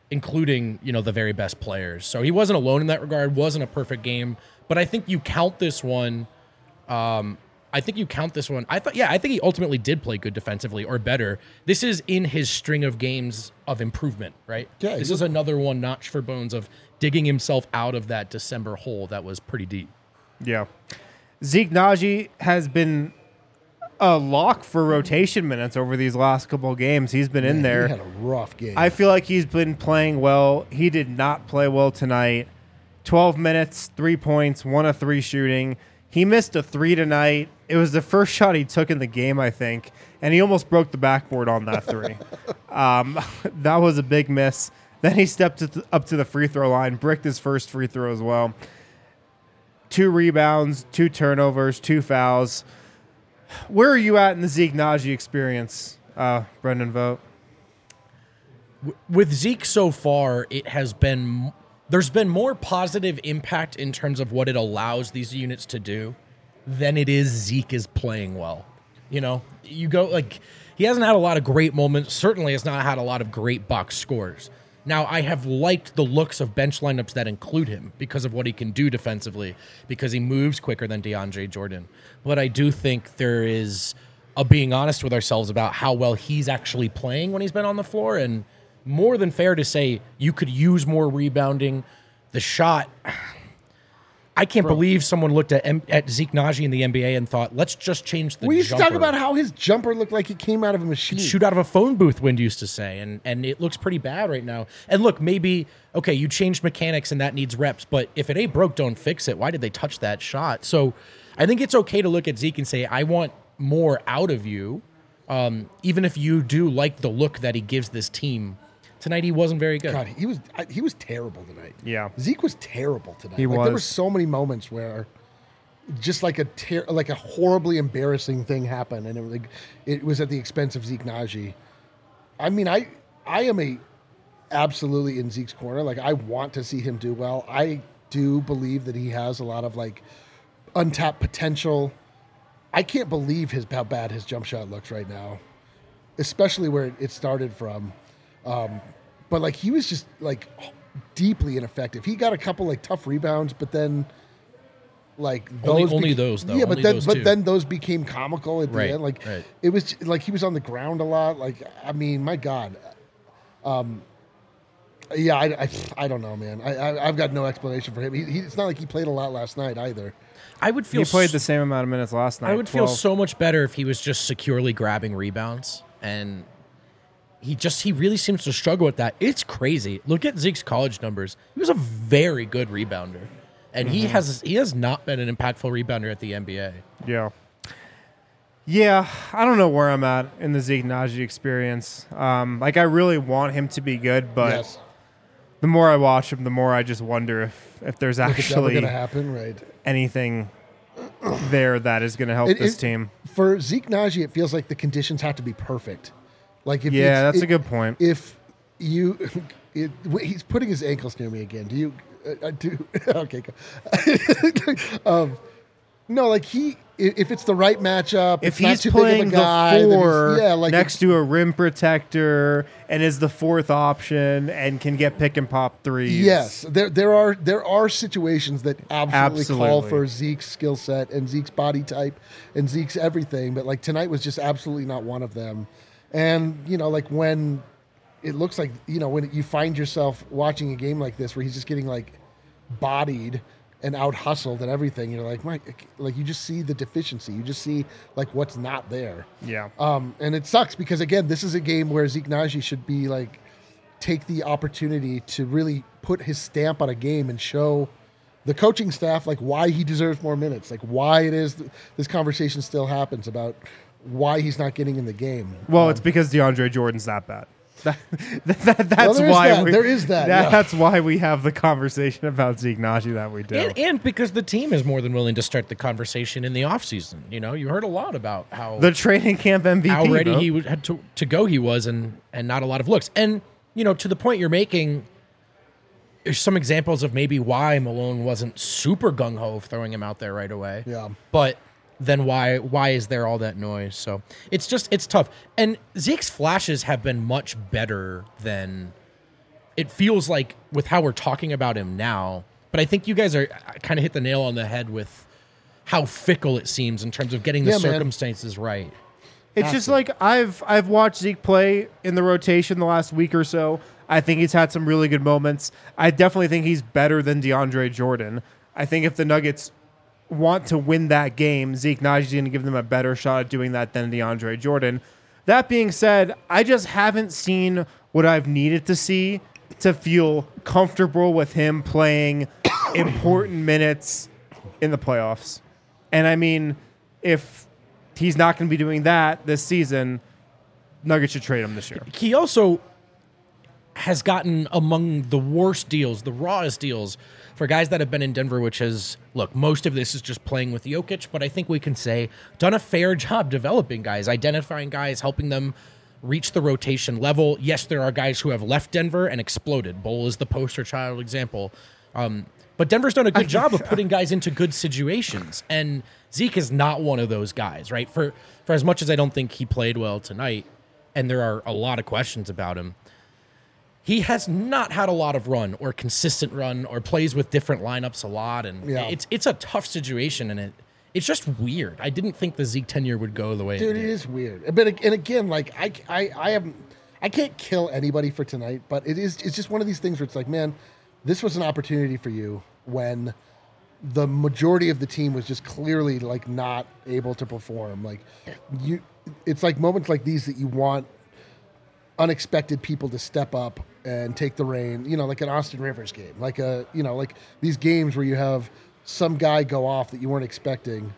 including, you know, the very best players. So he wasn't alone in that regard, wasn't a perfect game. But I think you count this one. Um, I think you count this one. I thought, yeah, I think he ultimately did play good defensively or better. This is in his string of games of improvement, right? Yeah, this he- is another one notch for Bones of digging himself out of that December hole that was pretty deep. Yeah. Zeke Naji has been a lock for rotation minutes over these last couple of games. He's been in there. He had a rough game. I feel like he's been playing well. He did not play well tonight. twelve minutes, three points, one of three shooting. He missed a three tonight. It was the first shot he took in the game, I think, and he almost broke the backboard on that three. um, that was a big miss. Then he stepped to th- up to the free throw line, bricked his first free throw as well. Two rebounds, two turnovers, two fouls. Where are you at in the Zeke Naji experience, uh, Brendan Vogt? With Zeke so far, it has been there's been more positive impact in terms of what it allows these units to do than it is Zeke is playing well. You know, you go like he hasn't had a lot of great moments. Certainly has not had a lot of great box scores. Now, I have liked the looks of bench lineups that include him because of what he can do defensively, because he moves quicker than DeAndre Jordan. But I do think there is a being honest with ourselves about how well he's actually playing when he's been on the floor, and more than fair to say you could use more rebounding. The shot, I can't Bro. believe someone looked at M- at Zeke Naji in the N B A and thought, let's just change the we used jumper. to talk about how his jumper looked like it came out of a machine. Shoot out of a phone booth, Wind used to say, and and it looks pretty bad right now. And look, maybe, okay, you changed mechanics and that needs reps, but if it ain't broke, don't fix it. Why did they touch that shot? So I think it's okay to look at Zeke and say, I want more out of you, um, even if you do like the look that he gives this team. Tonight he wasn't very good. God, he was I, he was terrible tonight. Yeah. Zeke was terrible tonight. He like, There were was. so many moments where just like a ter- like a horribly embarrassing thing happened, and it was like it was at the expense of Zeke Naji. I mean, I I am a absolutely in Zeke's corner. Like, I want to see him do well. I do believe that he has a lot of like untapped potential. I can't believe his how bad his jump shot looks right now, especially where it started from. Um, but like he was just like deeply ineffective. He got a couple like tough rebounds, but then like Only- those only bec- those, though. Yeah, but Only then those but two. then those became comical at the Right, end. Like right. it was like he was on the ground a lot. Like I mean, my God. Um, yeah, I, I, I don't know, man. I, I I've got no explanation for him. He, he, it's not like he played a lot last night either. I would feel He played s- the same amount of minutes last night. I would feel twelve. so much better if he was just securely grabbing rebounds, and he just he really seems to struggle with that. It's crazy. Look at Zeke's college numbers. He was a very good rebounder, and he has he has not been an impactful rebounder at the N B A. Yeah. Yeah, I don't know where I'm at in the Zeke Naji experience. Um, like, I really want him to be good, but yes, the more I watch him, the more I just wonder if, if there's like it's never actually gonna happen, right? anything there that is going to help It- this it- team. For Zeke Naji, it feels like the conditions have to be perfect. Like if Yeah, it's- that's it- a good point. If you, it, he's putting his ankles near me again. Do you? Uh, do okay. Go. um, no, like he. i- If it's the right matchup, If it's not he's too big of a playing guy, the then he's- four yeah, like next to a rim protector and is the fourth option and can get pick and pop threes. Yes, there there are there are situations that absolutely, call Absolutely. for Zeke's skill set and Zeke's body type and Zeke's everything, but like tonight was just absolutely not one of them. And you know, like when it looks like you know when you find yourself watching a game like this where he's just getting like bodied and out hustled and everything, you're like, Mike, like you just see the deficiency, you just see like what's not there. Yeah. Um, and it sucks because again, this is a game where Zeke Naji should be like take the opportunity to really put his stamp on a game and show the coaching staff like why he deserves more minutes, like why it is th- this conversation still happens about why he's not getting in the game. Well, it's because DeAndre Jordan's that bad. That, that, that's there is why that. we, There is that, yeah. That's why we have the conversation about Zeke Naji that we do. And, and because the team is more than willing to start the conversation in the offseason. You know, you heard a lot about how the training camp M V P. how ready bro. he would, had to, to go he was, and and not a lot of looks. And you know, to the point you're making, there's some examples of maybe why Malone wasn't super gung ho of throwing him out there right away. Yeah. But then why why is there all that noise? So it's just it's tough. And Zeke's flashes have been much better than it feels like with how we're talking about him now, but I think you guys are kind of hit the nail on the head with how fickle it seems in terms of getting the Yeah, man. circumstances right. It's just like I've I've watched Zeke play in the rotation the last week or so. I think he's had some really good moments. I definitely think he's better than DeAndre Jordan. I think if the Nuggets want to win that game, Zeke Naji's going to give them a better shot at doing that than DeAndre Jordan. That being said, I just haven't seen what I've needed to see to feel comfortable with him playing important minutes in the playoffs. And I mean, if he's not going to be doing that this season, Nuggets should trade him this year. He also has gotten among the worst deals, the rawest deals for guys that have been in Denver, which has, look, most of this is just playing with Jokic, but I think we can say done a fair job developing guys, identifying guys, helping them reach the rotation level. Yes, there are guys who have left Denver and exploded. Bol is the poster child example. Um, but Denver's done a good job of putting guys into good situations, and Zeke is not one of those guys, right? For for as much as I don't think he played well tonight, and there are a lot of questions about him, he has not had a lot of run or consistent run or plays with different lineups a lot, and Yeah. it's it's a tough situation, and it it's just weird. I didn't think the Zeke tenure would go the way Dude, it it did. is weird. But ag- and again, like I, I, I haven't, I can't kill anybody for tonight. But it is, it's just one of these things where it's like, man, this was an opportunity for you when the majority of the team was just clearly like not able to perform. Like you, it's like moments like these that you want unexpected people to step up and take the reign. You know, like an Austin Rivers game, like a, you know, like these games where you have some guy go off that you weren't expecting.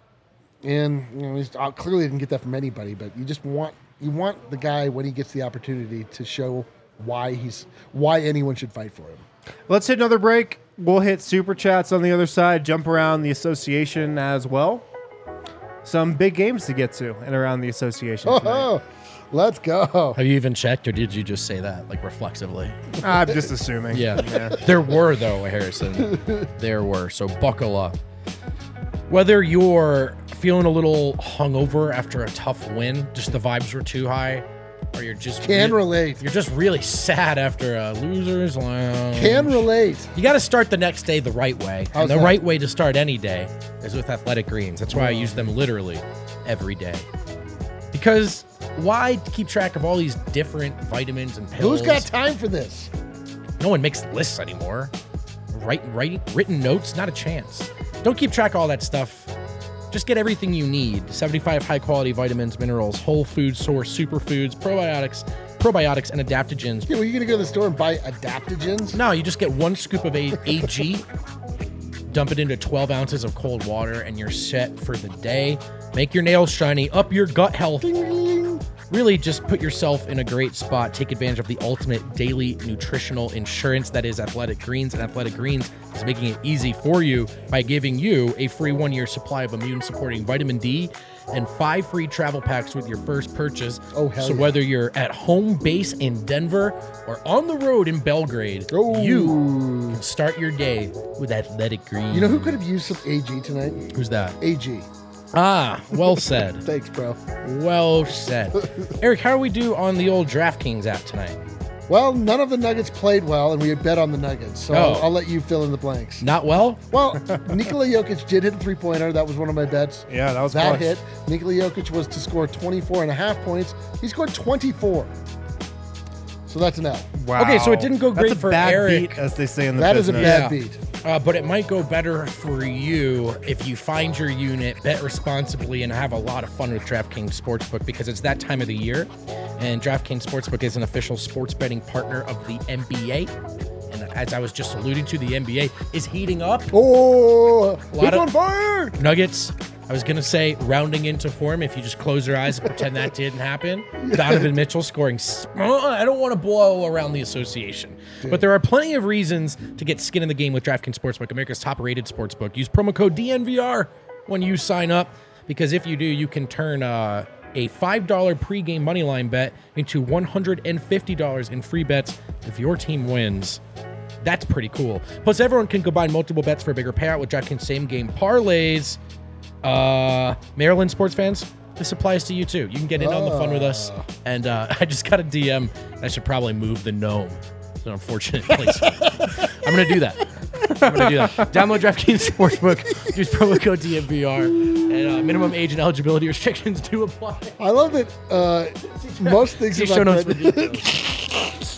And you know, he's uh, clearly didn't get that from anybody, but you just want you want the guy when he gets the opportunity to show why he's why anyone should fight for him. Let's hit another break. We'll hit super chats on the other side, jump around the association as well. Some big games to get to and around the association tonight. Oh, let's go. Have you even checked, or did you just say that like reflexively? I'm just assuming. Yeah. There were, though, Harrison. There were. So buckle up. Whether you're feeling a little hungover after a tough win, just the vibes were too high, or you're just Can re- relate. You're just really sad after a loser's lounge. Can relate. You got to start the next day the right way. How's and the that? right way to start any day is with Athletic Greens. That's why I use them literally every day. Because why keep track of all these different vitamins and pills? Who's got time for this? No one makes lists anymore. Write, write, written notes, not a chance. Don't keep track of all that stuff. Just get everything you need. seventy-five high-quality vitamins, minerals, whole food source, superfoods, probiotics, probiotics, and adaptogens. Yeah, well, you gonna go to the store and buy adaptogens? No, you just get one scoop of A- AG, dump it into twelve ounces of cold water, and you're set for the day. Make your nails shiny, up your gut health. Really just put yourself in a great spot. Take advantage of the ultimate daily nutritional insurance that is Athletic Greens. And Athletic Greens is making it easy for you by giving you a free one-year supply of immune-supporting vitamin D and five free travel packs with your first purchase. Oh, hell So yeah. whether you're at home base in Denver or on the road in Belgrade, Oh. you can start your day with Athletic Greens. You know who could have used some A G tonight? Who's that? A G. Ah, well said. Thanks, bro. Well said. Eric, how do we do on the old DraftKings app tonight? Well, none of the Nuggets played well, and we had bet on the Nuggets, so Oh. I'll, I'll let you fill in the blanks. Not well? Well, Nikola Jokic did hit a three-pointer. That was one of my bets. Yeah, that was That clutch. hit. Nikola Jokic was to score twenty-four and a half points. He scored twenty-four. So that's an L. Wow. Okay, so it didn't go great That's a for bad Eric. beat, as they say in the That is a business. bad Yeah. beat. Uh, but it might go better for you if you find your unit, bet responsibly, and have a lot of fun with DraftKings Sportsbook because it's that time of the year. And DraftKings Sportsbook is an official sports betting partner of the N B A. And as I was just alluding to, the N B A is heating up. Oh, A lot it's of- on fire! Nuggets, I was going to say rounding into form if you just close your eyes and pretend that didn't happen. Donovan Mitchell scoring. s- I don't want to blow around the association. But there are plenty of reasons to get skin in the game with DraftKings Sportsbook, America's top-rated sportsbook. Use promo code D N V R when you sign up because if you do, you can turn uh, a five dollars pregame moneyline bet into one hundred fifty dollars in free bets if your team wins. That's pretty cool. Plus, everyone can combine multiple bets for a bigger payout with DraftKings same-game parlays. Uh, Maryland sports fans, this applies to you too. You can get in on the fun with us. And uh, I just got a D M. I should probably move the gnome. It's an unfortunate place. I'm going to do that. I'm going to do that. Download DraftKings Sportsbook. Use promo code D N V R. And uh, minimum age and eligibility restrictions do apply. I love that uh, most things See about show notes for that- details.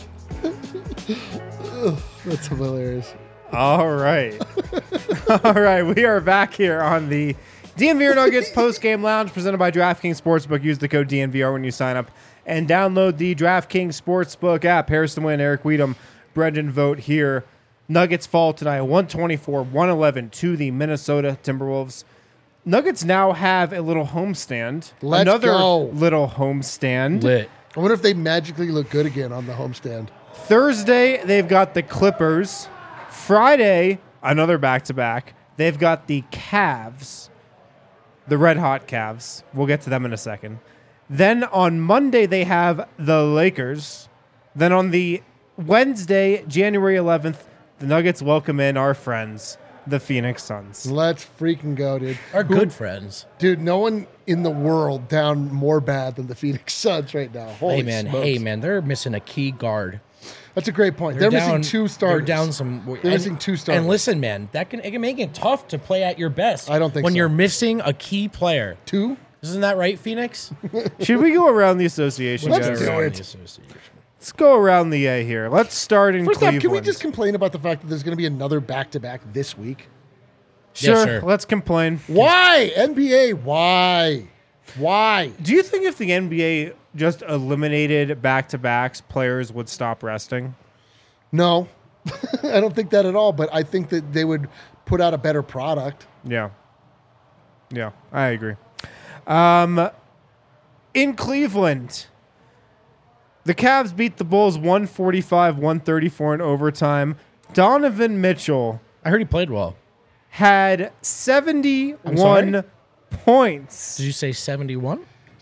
That's hilarious. All right. All right. We are back here on the D N V R Nuggets post-game lounge presented by DraftKings Sportsbook. Use the code D N V R when you sign up and download the DraftKings Sportsbook app. Harrison Wynn, Eric Weedham, Brendan Vogt here. Nuggets fall tonight one twenty-four one eleven to the Minnesota Timberwolves. Nuggets now have a little homestand. Let's Another go. little homestand. Lit. I wonder if they magically look good again on the homestand. Thursday, they've got the Clippers. Friday, another back-to-back. They've got the Cavs, the Red Hot Cavs. We'll get to them in a second. Then on Monday, they have the Lakers. Then on the Wednesday, January eleventh, the Nuggets welcome in our friends, the Phoenix Suns. Let's freaking go, dude. Our Who- good friends. Dude, no one in the world down more bad than the Phoenix Suns right now. Holy Hey, man. smokes. Hey, man. They're missing a key guard. That's a great point. They're, down, missing two starters. They're down some. They're and, missing two starters. And listen, man, that can it can make it tough to play at your best. I don't think when so. you're missing a key player. Two? Isn't that right, Phoenix? Should we go around the association, Let's guys? do Around it. the association. Let's go around the A here. Let's start in First Cleveland. off, can we just complain about the fact that there's going to be another back-to-back this week? Sure, Yeah, sure. let's complain. Why? N B A, why? Why? Do you think if the N B A just eliminated back-to-backs, players would stop resting? No. I don't think that at all, but I think that they would put out a better product. Yeah. Yeah, I agree. Um, in Cleveland, the Cavs beat the Bulls one forty-five one thirty-four in overtime. Donovan Mitchell I heard he played well. had seventy-one sorry? points. Did you say seventy-one?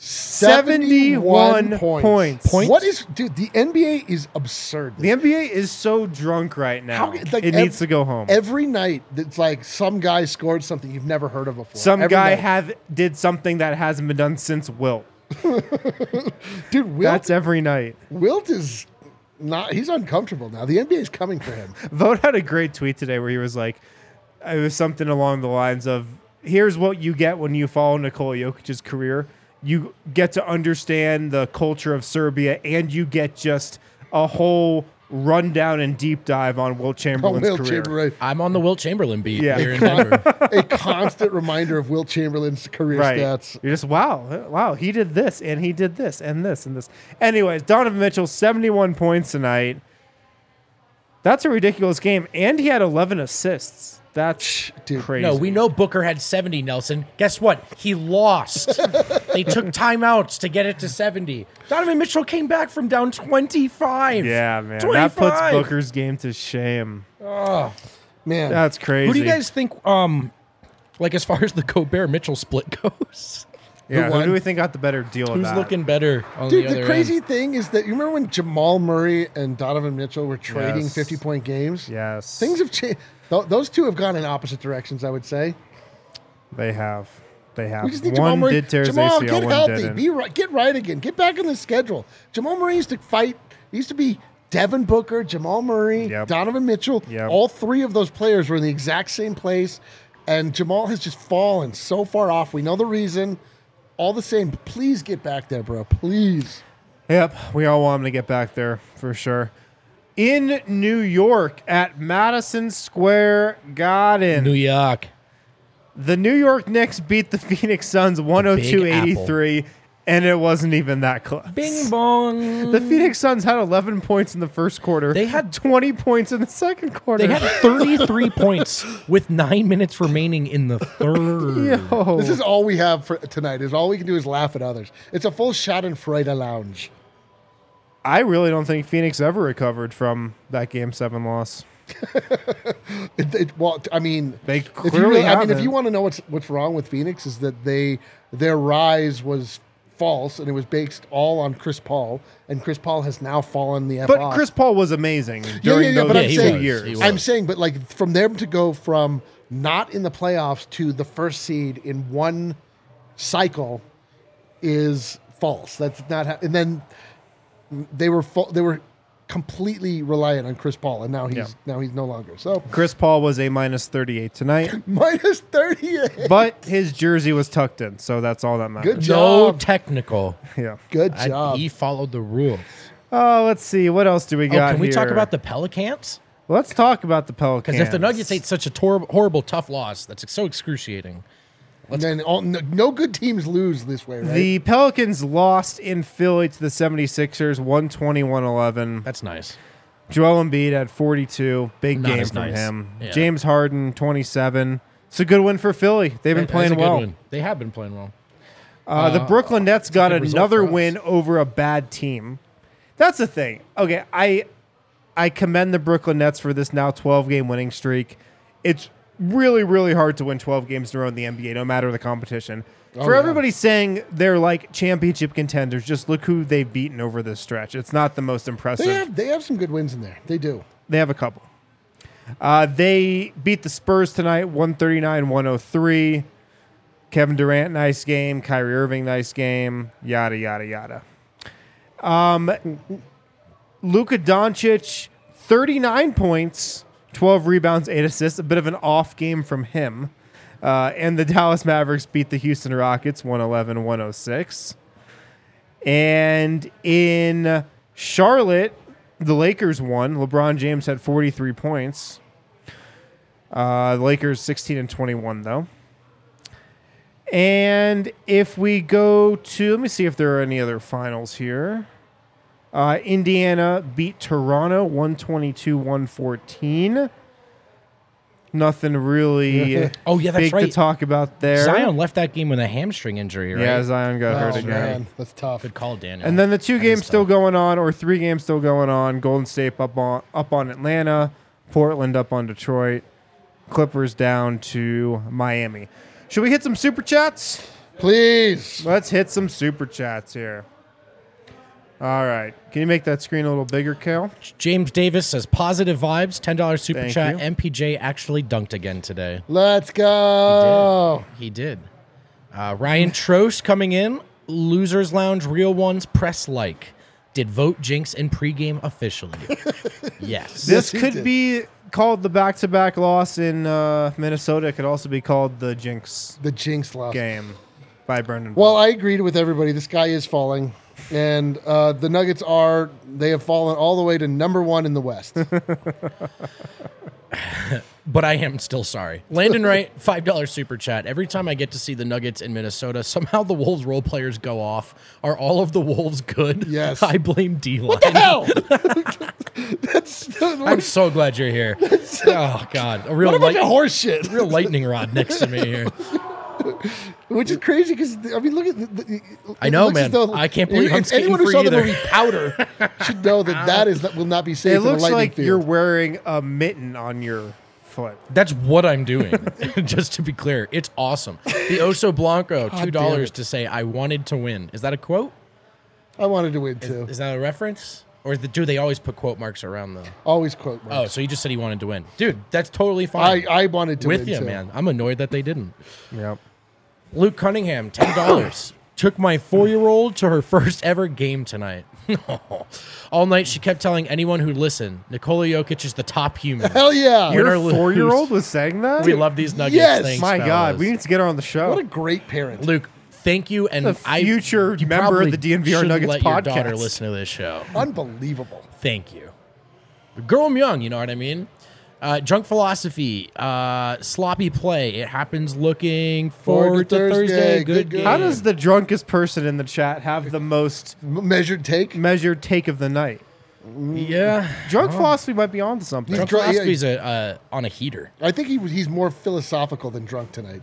seventy-one points. Points? What is, dude, the N B A is absurd. The N B A is so drunk right now. How- like, it ev- needs to go home. Every night, it's like some guy scored something you've never heard of before. Some Every guy night. have did something that hasn't been done since Wilt. Dude, Wilt, That's every night. Wilt is not, he's uncomfortable now. The N B A is coming for him. Vogt had a great tweet today where he was like, it was something along the lines of, here's what you get when you follow Nikola Jokic's career. You get to understand the culture of Serbia, and you get just a whole rundown and deep dive on Wilt Oh, Chamberlain's Wilt career. Chamberlain. I'm on the Wilt Chamberlain beat Yeah. here in Denver. A constant reminder of Wilt Chamberlain's career Right. stats. You're just, wow, wow, he did this, and he did this, and this, and this. Anyways, Donovan Mitchell, seventy-one points tonight. That's a ridiculous game. And he had eleven assists. That's Dude, crazy. No, we know Booker had seventy, Nelson. Guess what? He lost. They took timeouts to get it to seventy. Donovan Mitchell came back from down twenty-five. Yeah, man. twenty-five. That puts Booker's game to shame. Oh. Man. That's crazy. Who do you guys think, um, like as far as the Gobert-Mitchell split goes? Yeah, Who who won? do we think got the better deal of Who's that? looking better on Dude, the the, other crazy end? thing is that you remember when Jamal Murray and Donovan Mitchell were trading Yes. fifty-point games? Yes. Things have changed. Th- those two have gone in opposite directions, I would say. They have. They have. We just need One Jamal Murray. did tear his Jamal, A C L, get one healthy. didn't. Be right. Get right again. Get back in the schedule. Jamal Murray used to fight. He used to be Devin Booker, Jamal Murray, Yep. Donovan Mitchell. Yep. All three of those players were in the exact same place, and Jamal has just fallen so far off. We know the reason. All the same, please get back there, bro. Please. Yep, we all want him to get back there for sure. In New York at Madison Square Garden, New York. the New York Knicks beat the Phoenix Suns one oh two eighty-three, and it wasn't even that close. Bing bong. The Phoenix Suns had eleven points in the first quarter. They had- twenty points in the second quarter. They had thirty-three points with nine minutes remaining in the third. Yo. This is all we have for tonight. Is all we can do is laugh at others. It's a full Schadenfreude lounge. I really don't think Phoenix ever recovered from that Game Seven loss. It, it, well, I mean, They if you clearly really, I mean, if haven't. you want to know what's what's wrong with Phoenix is that they their rise was false and it was based all on Chris Paul, and Chris Paul has now fallen the F But off. Chris Paul was amazing yeah, during yeah, yeah, those but Yeah, I'm he two saying, was. years. He was. I'm saying, but like from them to go from not in the playoffs to the first seed in one cycle is false. That's not, how, and then they were fa- they were completely reliant on Chris Paul, and now he's Yeah. now he's no longer. So Chris Paul was a minus thirty-eight tonight, minus thirty-eight. but his jersey was tucked in, so that's all that matters. Good No job. technical. Yeah. Good I- job. he followed the rules. Oh, let's see. What else do we Oh, got can we talk here? about the Pelicans? Let's talk about the Pelicans. Because if the Nuggets ate such a tor- horrible, tough loss, that's so excruciating. and then all, no, no good teams lose this way, right? The Pelicans lost in Philly to the seventy-sixers, one twenty, one eleven. That's nice. Joel Embiid had forty-two. Big Not game as from nice. him. Yeah. James Harden, twenty-seven. It's a good win for Philly. They've been That- playing that's a good well. one. They have been playing well. Uh, the Brooklyn Nets got good result another for us. win over a bad team. That's the thing. Okay, I I commend the Brooklyn Nets for this now twelve-game winning streak. It's really, really hard to win twelve games in a row in the N B A, no matter the competition. for yeah. everybody saying they're like championship contenders, just look who they've beaten over this stretch. It's not the most impressive. they have they have some good wins in there. They do. They have a couple. Uh, they beat the Spurs tonight, one thirty-nine one oh three. Kevin Durant, nice game. Kyrie Irving, nice game. Yada, yada, yada. Um, Luka Doncic, thirty-nine points, twelve rebounds, eight assists. A bit of an off game from him. Uh, and the Dallas Mavericks beat the Houston Rockets, one eleven one oh six. And in Charlotte, the Lakers won. LeBron James had forty-three points. Uh, the Lakers sixteen and twenty-one, though. And if we go to, let me see if there are any other finals here. Uh, Indiana beat Toronto one twenty-two one fourteen. Nothing really Oh, yeah, that's big to right. talk about there. Zion left that game with a hamstring injury, right? Yeah, Zion got hurt Oh again. man, that's tough. Good call, Daniel. And then the two That games is still tough. going on, or three games still going on. Golden State up on up on Atlanta, Portland up on Detroit, Clippers down to Miami. Should we hit some super chats? Please. Let's hit some super chats here. All right. Can you make that screen a little bigger, Cal? James Davis says positive vibes, ten dollars super Thank chat. you. M P J actually dunked again today. Let's go. He did. Uh, Ryan Trost coming in. Losers Lounge, real ones, press like. Did vote Jinx in pregame officially? Yes. This he could did. be called the back-to-back loss in uh, Minnesota. It could also be called the Jinx The jinx loss. game by Brendan. Well, I agreed with everybody. The sky is falling. And uh, the Nuggets are, they have fallen all the way to number one in the West. But I am still sorry. Landon Wright, five dollars super chat. Every time I get to see the Nuggets in Minnesota, somehow the Wolves role players go off. Are all of the Wolves good? Yes. I blame D-Line. What the hell? That's, I'm so glad you're here. Oh, God. A real, what a bunch light, of horse shit. real lightning rod next to me here. Which is crazy because, I mean, look at the, the, I it know, looks as man. though- I can't believe I'm if skating anyone who for saw you the there. movie Powder should know that that is will not be safe it in a looks lightning like field. you're wearing a mitten on your foot. That's what I'm doing, just to be clear. It's awesome. The Oso Blanco, two dollars it. to say, I wanted to win. Is that a quote? I wanted to win too. Is that a reference? Or is the, do they always put quote marks around the... Always quote Oh, marks. so you just said he wanted to win. Dude, that's totally fine. I, I wanted to With win you, too. man. I'm annoyed that they didn't. Yep. Luke Cunningham, ten dollars. Took my four-year-old to her first ever game tonight. All night she kept telling anyone who'd listen, Nikola Jokic is the top human. Hell yeah. Win or Your lose. four-year-old was saying that? We love these nuggets. Yes. Thanks, My God, fellas. we need to get her on the show. What a great parent. Luke, thank you. And The I, future you member of probably the D N V R shouldn't Nuggets let your daughter podcast. listen to this show. Unbelievable. Thank you. Grow 'em young, you know what I mean? Uh, Drunk Philosophy, uh, Sloppy Play. It happens looking forward, to Thursday. Thursday. Good, Good, good. game. How does the drunkest person in the chat have the most M- measured take. measured take of the night? Yeah. Drunk philosophy might be on to something. He's Drunk dr- yeah, Philosophy's a, uh, on a heater. I think he was, he's more philosophical than drunk tonight.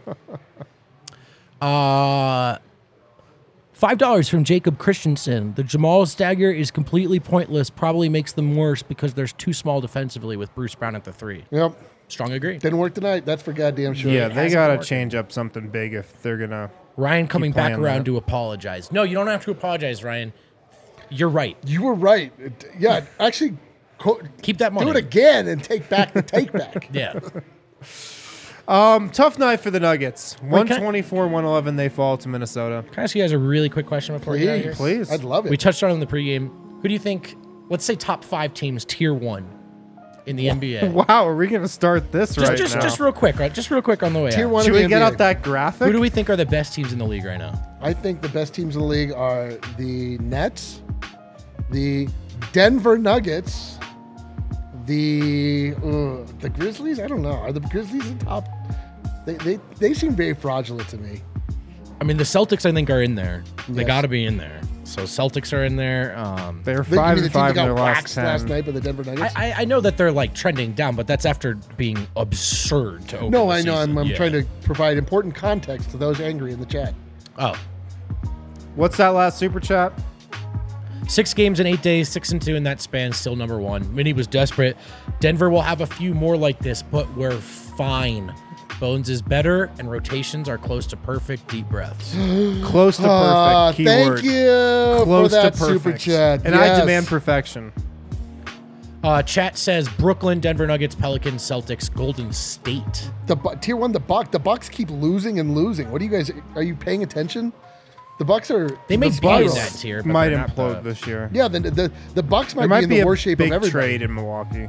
Uh, Five dollars from Jacob Christensen. The Jamal stagger is completely pointless. Probably makes them worse because there's too small defensively with Bruce Brown at the three. Yep. Strong agree. Didn't work tonight. That's for goddamn sure. Yeah, they hasn't got to worked. change up something big if they're going to. Ryan coming back playing around that. to apologize. No, you don't have to apologize, Ryan. You're right. You were right. It- yeah, actually, co- Keep that money. do it again and take back the take back. Yeah. Um, tough night for the Nuggets. can I- one twenty-four one eleven, they fall to Minnesota. Can I ask you guys a really quick question before we get out of here? Please. I'd love it. We touched on it in the pregame. Who do you think let's say top five teams, tier one in the N B A. Wow, are we going to start this Just, right just, now? just real quick, right? Just real quick on the way Tier out. one. Should of the we get N B A. up that graphic? Who do we think are the best teams in the league right now? I think the best teams in the league are the Nets, the Denver Nuggets, the uh, the Grizzlies. I don't know. Are the Grizzlies the top? They, they they seem very fraudulent to me. I mean, the Celtics, I think, are in there. They Yes. got to be in there. So Celtics are in there. Um, They're They- you five mean the and team five that in their got last waxed last ten. night by the Denver Nuggets? I, I I know that they're like trending down, but that's after being absurd to open no, the I know. I'm, season. I'm Yeah. trying to provide important context to those angry in the chat. Oh, What's that last super chat? six games in eight days, six and two in that span, still number one. Minnie was desperate. Denver will have a few more like this, but we're fine. Bones is better, and rotations are close to perfect. Deep breaths. Close to perfect. Ah, Keyword. thank you Close for that to perfect. super chat. And Yes. I demand perfection. Uh, chat says Brooklyn, Denver Nuggets, Pelicans, Celtics, Golden State. the Bu- tier one. The Buck. The Bucks keep losing and losing. What do you guys? Are you paying attention? The Bucks are. They may the be in Bucks- that tier, but Might they're not implode the- this year. Yeah, the the, the Bucks might, There might be in be the a worst shape big of everybody. trade in Milwaukee.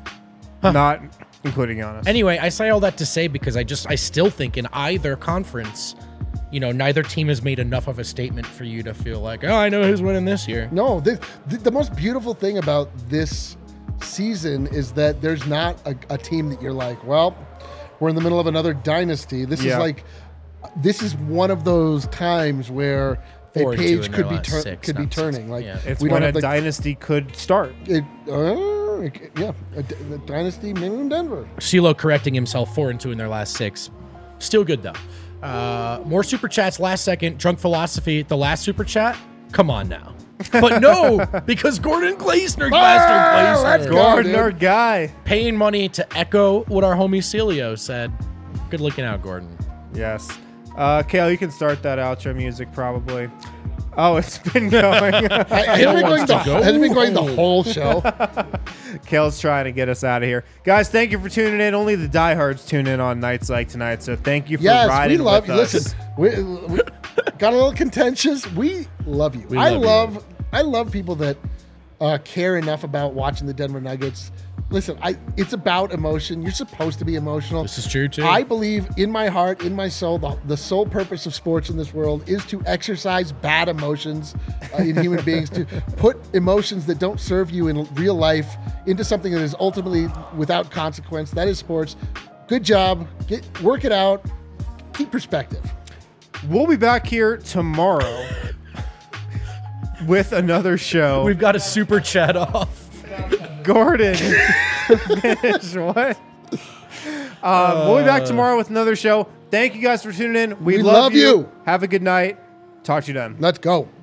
Not including Giannis. Anyway, I say all that to say because I just I still think in either conference, you know, neither team has made enough of a statement for you to feel like, oh, I know who's winning this year. No, this, the, the most beautiful thing about this season is that there's not a, a team that you're like, well, we're in the middle of another dynasty. This Yeah. is like, this is one of those times where Four a and two page in could their be last tur- six, could be not six. turning. Like Yeah. it's we when don't a have like dynasty could start. it, uh, it- yeah, a, d- a dynasty maybe in Denver. CeeLo correcting himself, four and two in their last six. Still good though. Uh, more super chats last second. Drunk Philosophy, the last super chat. Come on now. But no, because Gordon Gleisner, Ah, Gleisner, let's Gleisner, go. Gordon, dude. our guy. paying money to echo what our homie Celio said. Good looking out, Gordon. Yes. Uh, Kale, you can start that outro music probably. Oh, it's been going. I, I Kale had been going wants the, to go has been going the home. whole show. Kale's trying to get us out of here. Guys, thank you for tuning in. Only the diehards tune in on nights like tonight, so thank you for Yes, we riding love with you. us. Listen, we, we got a little contentious. We love you. We I love you. love I love people that uh, care enough about watching the Denver Nuggets. Listen, I it's about emotion. You're supposed to be emotional. This is true too. I believe in my heart, in my soul, the, the sole purpose of sports in this world is to exercise bad emotions uh, in human beings, to put emotions that don't serve you in real life into something that is ultimately without consequence. That is sports. Good job. Get work it out. Keep perspective. We'll be back here tomorrow with another show. We've got a super chat off. Gordon. Finish what? Um, we'll be back tomorrow with another show. Thank you guys for tuning in. We, We love, love you. you. Have a good night. Talk to you then. Let's go.